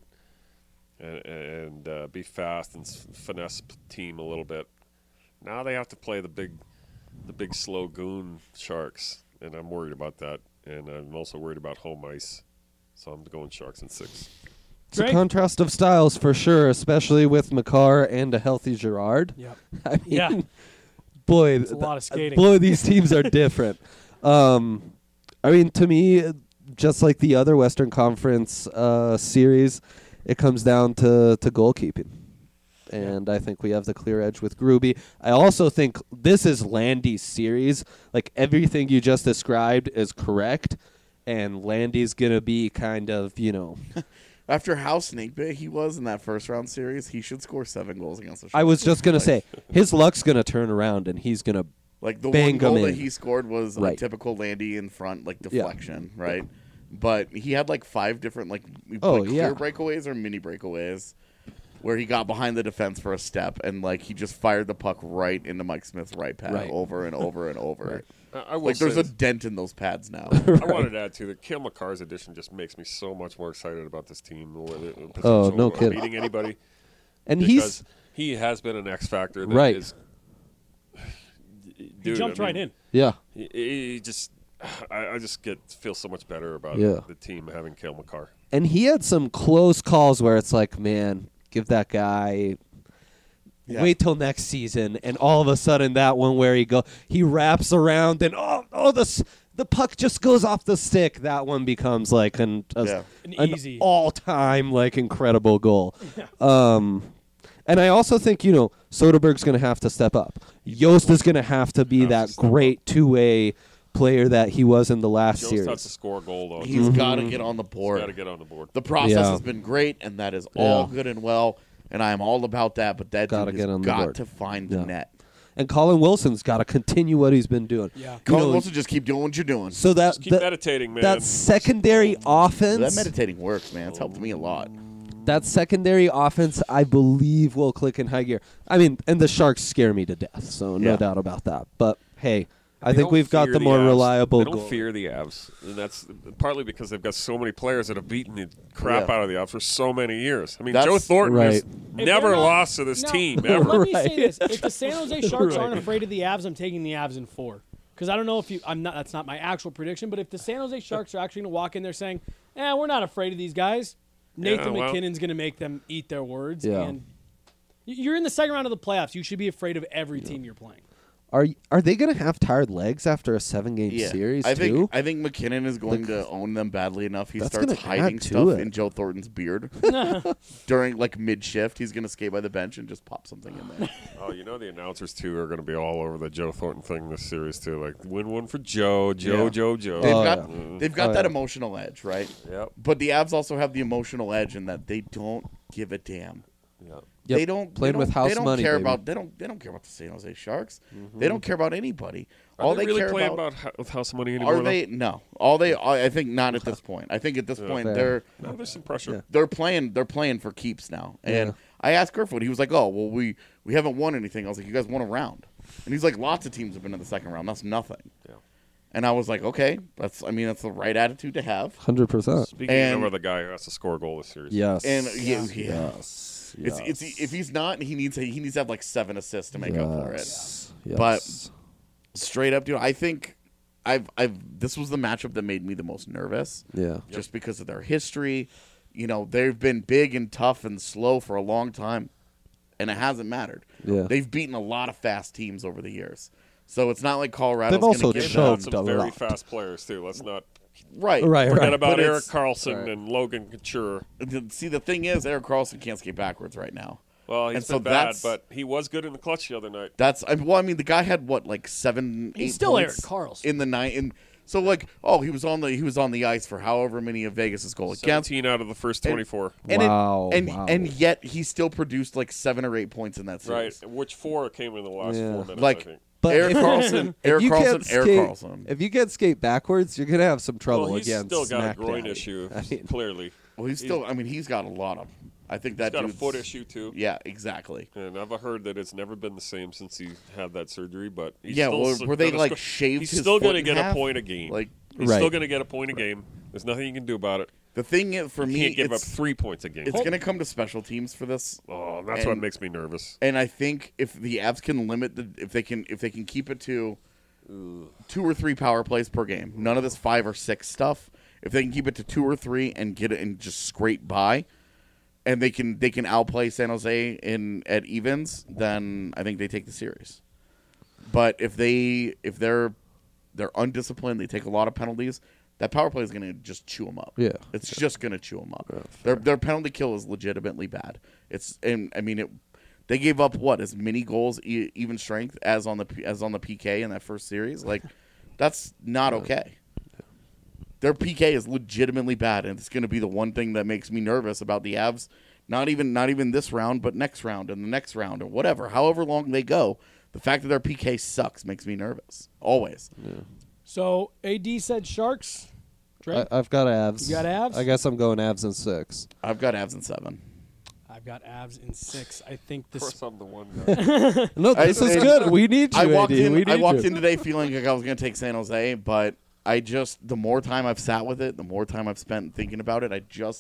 and be fast and finesse team a little bit. Now they have to play the big slow goon Sharks, and I'm worried about that. And I'm also worried about home ice, so I'm going Sharks in 6. It's a contrast of styles for sure, especially with Makar and a healthy Girard. Yep. I mean, Yeah. Boy, It's a lot of skating. Boy, these teams are different. I mean, to me, just like the other Western Conference series, it comes down to goalkeeping. And I think we have the clear edge with Gruby. I also think this is Landy's series. Like, everything you just described is correct, and Landy's going to be kind of, After how snakebit he was in that first round series, he should score 7 goals against the Sharks. I was just going to say, his luck's going to turn around, and he's going to like the bang one goal them that in. he scored was a Right. typical Landy in front, like deflection, right? But he had like 5 different clear breakaways or mini breakaways where he got behind the defense for a step and like he just fired the puck right into Mike Smith's right pad over and over and over. I will like there's say a this. dent in those pads now. I wanted to add too that Cale Makar's addition just makes me so much more excited about this team. No kidding. Beating anybody, and because he has been an X factor. That Right. is, He dude, jumped right in. Yeah. He just, I just feel so much better about the team having Cale Makar. And he had some close calls where it's like, man, give that guy. Wait till next season, and all of a sudden that one where he wraps around and the puck just goes off the stick. That one becomes like an easy all-time like incredible goal. And I also think Soderberg's going to have to step up. Yost is going to have to be that great two-way player that he was in the last Jost series. has to score a goal though. He's got to get on the board. He's got to get on the board. The process has been great, and that is all good and well, and I am all about that. But that dude has got to find the net. And Colin Wilson's got to continue what he's been doing. Yeah, Colin Wilson, just keep doing what you're doing. So just keep meditating, man. That secondary offense. That meditating works, man. It's helped me a lot. That secondary offense, I believe, will click in high gear. I mean, and the Sharks scare me to death, so no doubt about that. But hey, I think we've got the more reliable goal. They don't fear the Avs, and that's partly because they've got so many players that have beaten the crap out of the Avs for so many years. I mean, Joe Thornton has never lost to this team ever. Let me say this: if the San Jose Sharks aren't afraid of the Avs, I'm taking the Avs in 4. Because I don't know if I'm not. That's not my actual prediction. But if the San Jose Sharks are actually going to walk in there saying, we're not afraid of these guys," Nathan McKinnon's going to make them eat their words. Yeah. And you're in the second round of the playoffs. You should be afraid of every team you're playing. Are they going to have tired legs after a 7-game series I too? think McKinnon is going to own them badly enough. He That's starts gonna hiding add to stuff it. in Joe Thornton's beard during like mid-shift. He's going to skate by the bench and just pop something in there. Oh, the announcers too are going to be all over the Joe Thornton thing this series too. Like win one for Joe. They've got that emotional edge, right? Yep. But the Avs also have the emotional edge in that they don't give a damn. Yep. Yep. They don't Playing they with don't- house they don't money, Care baby. about they don't care about the San Jose Sharks. They don't care about anybody. Are All they really care playing about with house money anymore? are they no. I think not at this point. I think at this point fair. There's some pressure. they're playing for keeps now. And Yeah. I asked Kerfoot, he was like, "Oh, well, we haven't won anything." I was like, "You guys won a round," and he's like, "Lots of teams have been in the second round. That's nothing." Yeah. And I was like, "Okay, that's the right attitude to have." 100%. Speaking And- of the guy who has to score a goal this series. Yes. And Yes. It's if he's not, he needs to have like 7 assists to make up for it. Yes. But straight up, dude, I think this was the matchup that made me the most nervous. Yeah. Just because of their history. They've been big and tough and slow for a long time, and it hasn't mattered. Yeah. They've beaten a lot of fast teams over the years. So it's not like Colorado's They've also going to They've give had them. choked some a very lot. fast players too. Let's not Right. forget about But Eric it's- Carlson and Logan Couture. See, the thing is, Eric Carlson can't skate backwards right now. Well, he's And so been bad, that's- but he was good in the clutch the other night. The guy had what, like 7, 8 He's still points Eric Carlson. in the night, and so he was on the ice for however many of Vegas' goal against. 17 out of the first 24. And Wow, and wow. and yet he still produced like 7 or 8 points in that Right, series. which 4 came in the last Yeah. 4 minutes, Like, I think. But Eric if- Carlson, if Eric you Carlson, can't Eric skate- Carlson. If you can't skate backwards, you're gonna have some trouble Well, he's against still got Smack a groin Daddy. issue, I mean, clearly. Well, he's got a lot of. I think He's that got a dude's- foot issue, too. Yeah, exactly. And I've heard that it's never been the same since he had that surgery, but he's Yeah, still well, where they gonna like score- shaved He's his still foot going to in get half. a point a game. Like He's Right. still going to get a point a game. There's nothing you can do about it. the thing is, for You me, can't give up it's 3 points a game. it's going to come to special teams for this. Oh, that's what And- makes me nervous. And I think if the Avs can limit if they can keep it to 2 or 3 power plays per game, none of this 5 or 6 stuff. If they can keep it to 2 or 3 and get it and just scrape by, and they can outplay San Jose at evens, then I think they take the series. But if they're undisciplined, they take a lot of penalties. That power play is going to just chew them up. Yeah. It's just going to chew them up. Their penalty kill is legitimately bad. They gave up as many goals, even strength, as on the PK in that first series. Like, that's not okay. Their PK is legitimately bad, and it's going to be the one thing that makes me nervous about the Avs. Not even this round, but next round and the next round or whatever. However long they go, the fact that their PK sucks makes me nervous. Always. So AD said Sharks. Dre? I've got Avs. You got Avs? I guess I'm going Avs in 6. I've got Avs in 7. I've got Avs in 6. I think Of this. course, I'm the one guy. No, this is good. We need you, I walked AD. in. We need I walked you. in today feeling like I was going to take San Jose, but the more time I've sat with it, the more time I've spent thinking about it,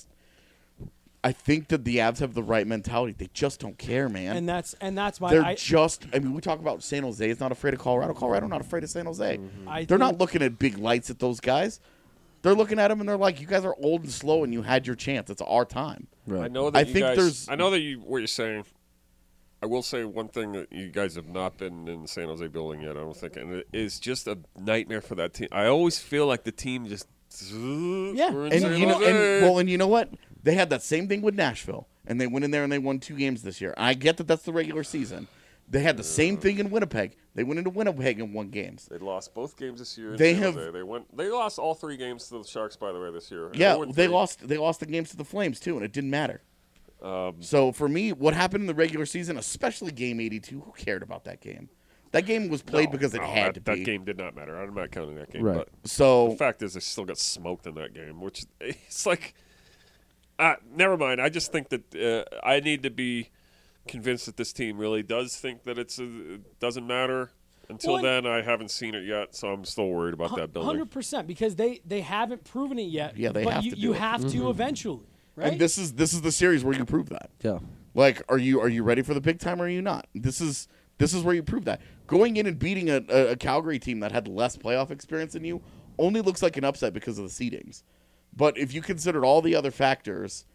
I think that the Avs have the right mentality. They just don't care, man. And that's why They're I we talk about San Jose is not afraid of Colorado. Colorado not afraid of San Jose. I They're not think- looking at big lights at those guys. They're looking at them and they're like, "You guys are old and slow, and you had your chance. It's our time." I know that I you think guys. there's- I know that what you're saying. I will say one thing that you guys have not been in the San Jose building yet. I don't think, and it is just a nightmare for that team. I always feel like the team just. Yeah. we're in And San you know, Jose. and you know what? They had that same thing with Nashville, and they went in there and they won 2 games this year. I get that that's the regular season. They had the same thing in Winnipeg. They went into Winnipeg and won games. They lost both games this year. in They San have- Jose. They lost all 3 games to the Sharks, by the way, this year. Yeah, 0-3. they lost the games to the Flames too, and it didn't matter. So for me, what happened in the regular season, especially Game 82, who cared about that game? That game was played because it had to be. That game did not matter. I'm not counting that game. Right. But So the fact is, they still got smoked in that game, which it's like, never mind. I just think that I need to be convinced that this team really does think that it doesn't matter. Until Well, then, I haven't seen it yet, so I'm still worried about that building. 100% because they haven't proven it yet. Yeah, they but have you, to do you it. have to eventually, right? and this is the series where you prove that. Yeah. Like, are you ready for the big time or are you not? This is where you prove that. Going in and beating a Calgary team that had less playoff experience than you only looks like an upset because of the seedings. But if you considered all the other factors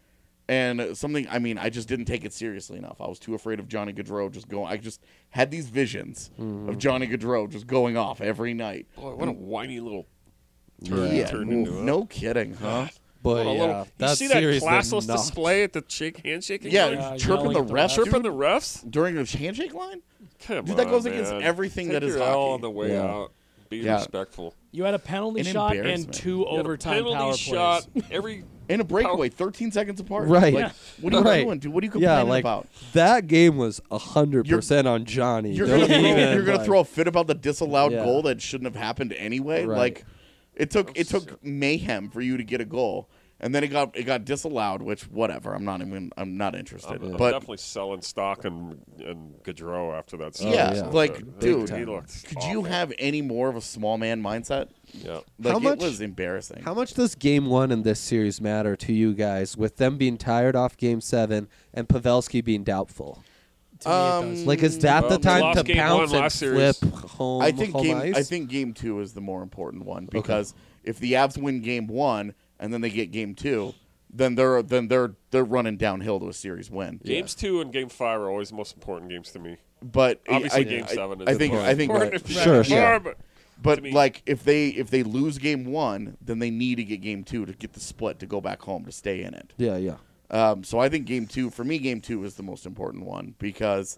And something, I mean, I just didn't take it seriously enough. I was too afraid of Johnny Gaudreau just going. I just had these visions of Johnny Gaudreau just going off every night. Boy, what a whiny little Yeah, turned into it. no kidding, huh? But What a little- you see that classless display at the handshaking Yeah, line? chirping the refs, Chirping the refs? during the handshake line. Come Dude, that on, goes against man. everything Take that is your L hockey. on the way Yeah. out. Be Yeah. respectful. You had a penalty An shot and embarrassment. 2 You had a overtime penalty power shot plays. every In a breakaway, 13 seconds apart. Right. Like, what are you Right. doing, dude? What are you complaining like about? that game was 100% on Johnny. You're Don't gonna, even, you're gonna like- throw a fit about the disallowed Yeah. goal that shouldn't have happened anyway. Right. Like, it took mayhem for you to get a goal, and then it got disallowed. Which whatever. I'm not interested. I'm But definitely selling stock and Gaudreau after that. yeah, yeah. like dude, he looked could awful. you have any more of a small man mindset? Yeah. Like How much- it was embarrassing. How much does Game 1 in this series matter to you guys, with them being tired off Game 7 and Pavelski being doubtful? To me, it does. Like, is that Well, the we time lost to Game pounce 1 and last flip series. home, I think home ice? game 2 is the more important one because if the Avs win Game 1 and then they get Game 2, then they're running downhill to a series win. Games 2 and Game 5 are always the most important games to me. But Obviously, Game 7 is I think important. that- Sure, yeah. But to But me- like if they lose Game 1, then they need to get Game 2 to get the split to go back home to stay in it. Yeah, yeah. So I think Game 2 for me, Game 2 is the most important one because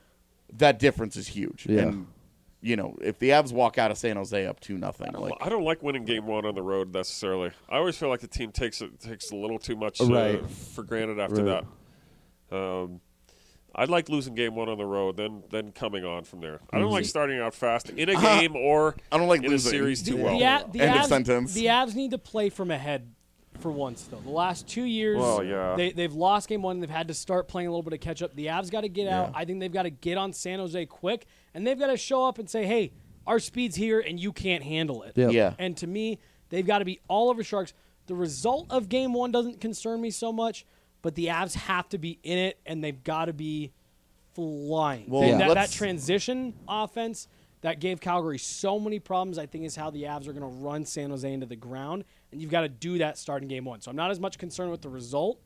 that difference is huge. Yeah. And you know, if the Avs walk out of San Jose up 2-0, like I don't like winning Game 1 on the road necessarily. I always feel like the team takes a little too much Right. for granted after Right. that. I'd like losing Game 1 on the road, then coming on from there. I don't like starting out fast in a game or I don't like in losing. a series too well. The End of Avs, sentence. The Avs need to play from ahead for once, though. The last 2 years, Well, yeah. they've lost Game 1. They've had to start playing a little bit of catch up. The Avs got to get out. I think they've got to get on San Jose quick, and they've got to show up and say, hey, our speed's here, and you can't handle it. Yep. Yeah. And to me, they've got to be all over Sharks. The result of Game 1 doesn't concern me so much, but the Avs have to be in it, and they've got to be flying. Well, And that let's- transition offense that gave Calgary so many problems, I think, is how the Avs are going to run San Jose into the ground, and you've got to do that starting Game 1. So I'm not as much concerned with the result,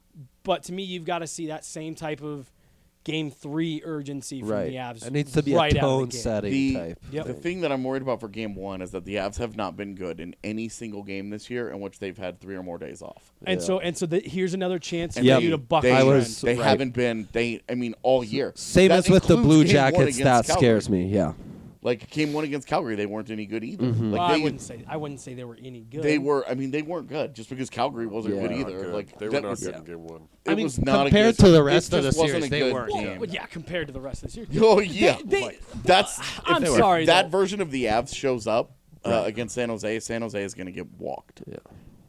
but to me, you've got to see that same type of Game 3 urgency from Right. the Avs. It needs to be right a out of the tone gate. setting type. Yep. The thing that I'm worried about for Game 1 is that the Avs have not been good in any single game this year in which they've had 3 or more days off. And so here's another chance for Yep. you to buck They, the I trend. was- they right. haven't been. All year. Same That as with the includes Blue Game 1 Jackets, against that Calgary. scares me. Yeah. Like Game 1 against Calgary, they weren't any good either. Mm-hmm. Like Well, they, I wouldn't say they were any good. they were. I mean, they weren't good just because Calgary wasn't Yeah. good Not either. Good. Like They were that not was, good in Game 1. It was not compared a good, to the it rest of just the wasn't series, a they good weren't. game. Well, yeah, compared to the rest of the series. Oh yeah, They- that's. I'm if sorry, that though. version of the Avs shows up against San Jose. San Jose is going to get walked. Yeah.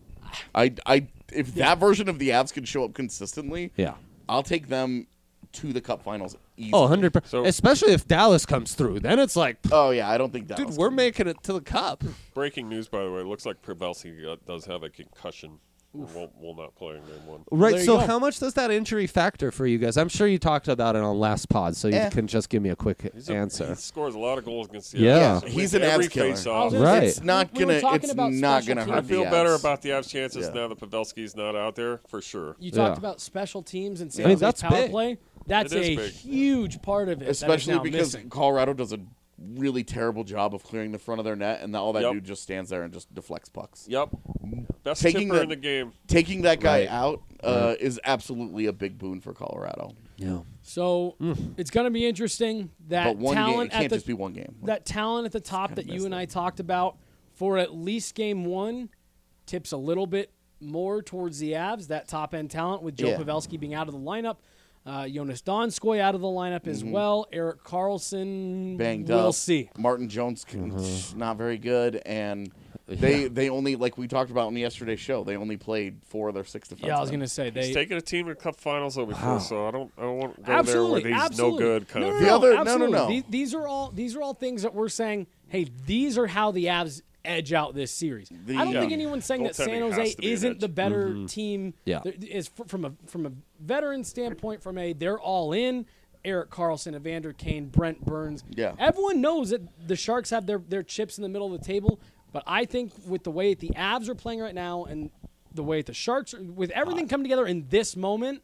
If that version of the Avs can show up consistently, Yeah. I'll take them to the Cup Finals easily. Oh, 100%. So- Especially if Dallas comes through. Then it's like, Oh yeah, I don't think that. dude, we're making it to the Cup. Breaking news, by the way. It looks like Pavelski does have a concussion. Will not play in Game 1. Right. There you So go. how much does that injury factor for you guys? I'm sure you talked about it on last pod, so you can just give me a quick answer. He scores a lot of goals against the Yeah. Avs. He's Wins an every Avs killer. face-off. Right. It's not We were gonna. talking It's about not special gonna teams. hurt. I feel the better Avs. about the Avs' chances Yeah. now that Pavelski's not out there, for sure. You talked Yeah. about special teams and I San mean, Jose's that's power big. play. That's It is a big. huge part of it. Especially that is now because missing. Colorado does a really terrible job of clearing the front of their net, and all that Yep. dude just stands there and just deflects pucks. Yep. Best Taking tipper the- in the game. Taking that guy Right. out is absolutely a big boon for Colorado. Yeah. So it's going to be interesting. That But one game, it talent can't at the just be one game. that talent at the top that you and I talked about for at least Game 1 tips a little bit more towards the Avs. That top end talent with Joe Yeah. Pavelski being out of the lineup. Jonas Donskoy out of the lineup as well. Eric Carlson, Banged we'll up. see. Martin Jones not very good, and they only, like we talked about in yesterday's show, they only played 4 of their 6 defensemen. Yeah, I was going to say He's they taken a team to Cup Finals though before, so I don't want to go absolutely, there where he's absolutely. no good kind of The thing. other- no, absolutely. no. These are all things that we're saying. Hey, these are how the Avs edge out this series. I don't think anyone's saying that San Goaltending Jose has to be an isn't edge. the better team. Yeah. There is from a veteran standpoint. They're all in. Eric Carlson, Evander Kane, Brent Burns. Yeah. Everyone knows that the Sharks have their chips in the middle of the table. But I think with the way the Avs are playing right now and the way the Sharks, with everything coming together in this moment,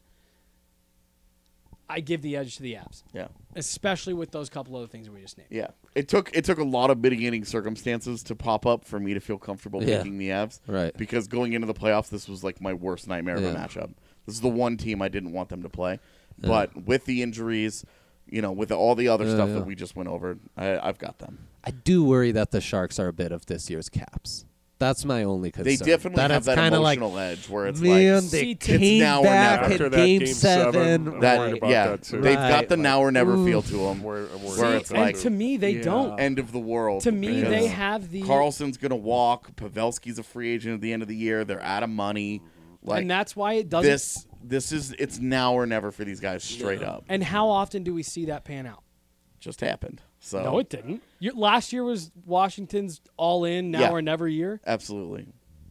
I give the edge to the Avs. Yeah. Especially with those couple other things that we just named. Yeah. It took a lot of mitigating circumstances to pop up for me to feel comfortable picking the Avs. Right. Because going into the playoffs, this was like my worst nightmare of a matchup. This is the one team I didn't want them to play. But with the injuries, with all the other stuff that we just went over, I've got them. I do worry that the Sharks are a bit of this year's Caps. That's my only concern. They definitely have that emotional edge where it's man, like, they it's came now back or never. at Game 7. I'm worried about that too. They've got the now or never feel to them. Where it's and like, to me, they don't. End of the world. To me, they have the... Carlson's going to walk. Pavelski's a free agent at the end of the year. They're out of money. Like, and that's why it doesn't... It's now or never for these guys straight up. And how often do we see that pan out? Just happened. So No, it didn't. Last year was Washington's all-in, now or never year. Absolutely.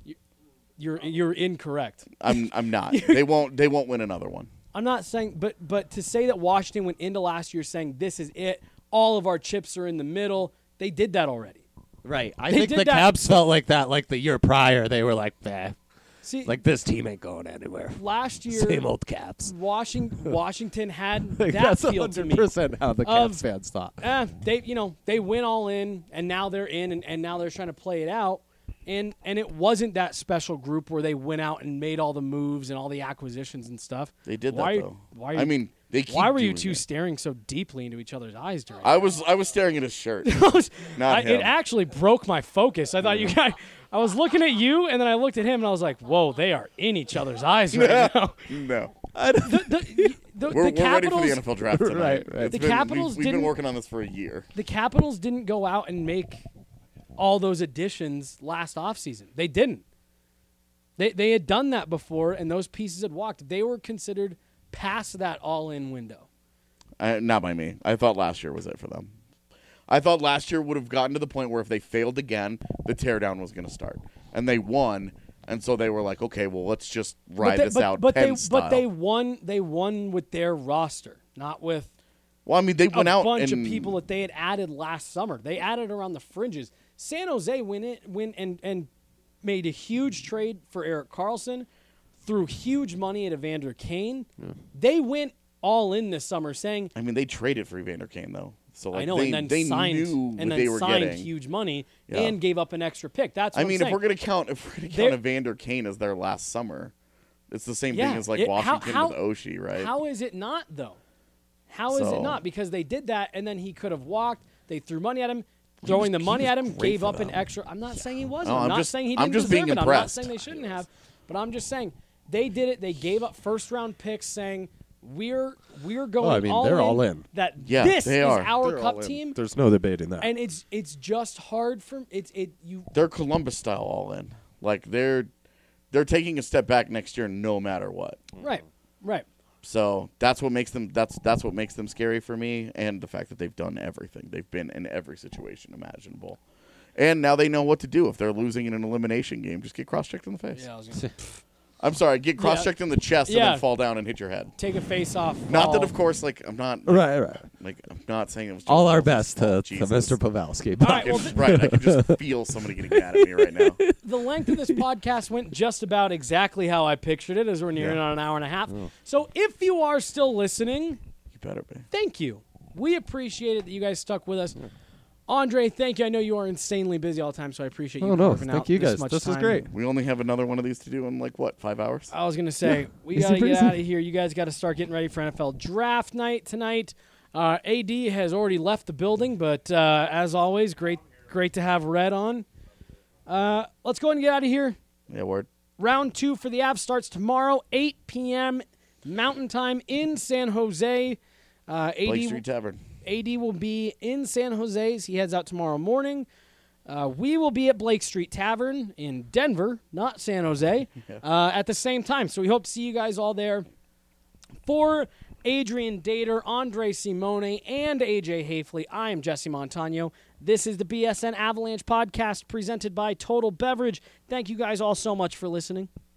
You're incorrect. I'm not. They won't win another one. I'm not saying, but to say that Washington went into last year saying this is it, all of our chips are in the middle, they did that already. Right. I think the Caps felt like that like the year prior. They were like, See, like this team ain't going anywhere. Last year, same old Caps. Washington had like that that's feel to me. 100% how the Caps fans thought. They went all in, and now they're in, and now they're trying to play it out. And it wasn't that special group where they went out and made all the moves and all the acquisitions and stuff. They did that though. Why were you two staring so deeply into each other's eyes during? I was staring at his shirt. Not him. It actually broke my focus. I thought you guys. I was looking at you, and then I looked at him, and I was like, "Whoa, they are in each other's eyes right now." No. We're ready for the NFL draft tonight. Right. The Capitals we've been working on this for a year. The Capitals didn't go out and make all those additions last offseason. They didn't. They had done that before, and those pieces had walked. They were considered past that all-in window. Not by me. I thought last year was it for them. I thought last year would have gotten to the point where if they failed again, the teardown was going to start. And they won, and so they were like, okay, well, let's just ride this out Pens style. But they won with their roster, not with they went out a bunch of people that they had added last summer. They added around the fringes. San Jose went and made a huge trade for Erik Karlsson, threw huge money at Evander Kane. Yeah. They went all in this summer saying... they traded for Evander Kane, though. So I know, they and then signed, knew and what then they were signed getting. Huge money and gave up an extra pick. That's what I'm saying. if we're gonna count Evander Kane as their last summer, it's the same thing as Washington with Oshie, right? How is it not though? How is it not? Because they did that, and then he could have walked. They threw money at him. Throwing the money at him, gave up an extra. I'm not saying he wasn't. I'm not saying he didn't deserve it. I'm not saying they shouldn't have. But I'm just saying they did it. They gave up first-round picks saying, we're going all in. They're all in. This is our cup team. There's no debating that. And it's just hard for They're Columbus style all in. Like they're taking a step back next year no matter what. Right. So that's what makes them that's what makes them scary for me, and the fact that they've done everything. They've been in every situation imaginable. And now they know what to do if they're losing in an elimination game. Just get cross-checked in the face. Yeah, I was gonna say. I'm sorry, get cross-checked in the chest and then fall down and hit your head. Take a face off. Not that, of course, I'm not... Right. I'm not saying it was... All our best to Mr. Pavelski. Right, I can just feel somebody getting mad at me right now. The length of this podcast went just about exactly how I pictured it, as we're nearing on an hour and a half. Oh. So if you are still listening... You better be. Thank you. We appreciate it that you guys stuck with us. Yeah. Andre, thank you. I know you are insanely busy all the time, so I appreciate you carving out thank you guys. This is great. We only have another one of these to do in 5 hours? I was going to say, we got to get out of here. You guys got to start getting ready for NFL draft night tonight. AD has already left the building, but as always, great to have Red on. Let's go ahead and get out of here. Yeah, word. Round 2 for the Avs starts tomorrow, 8 p.m. Mountain Time in San Jose. Blake Street Tavern. AD will be in San Jose. He heads out tomorrow morning. We will be at Blake Street Tavern in Denver, not San Jose, at the same time. So we hope to see you guys all there. For Adrian Dater, Andre Simone, and AJ Hafley, I am Jesse Montano. This is the BSN Avalanche podcast presented by Total Beverage. Thank you guys all so much for listening.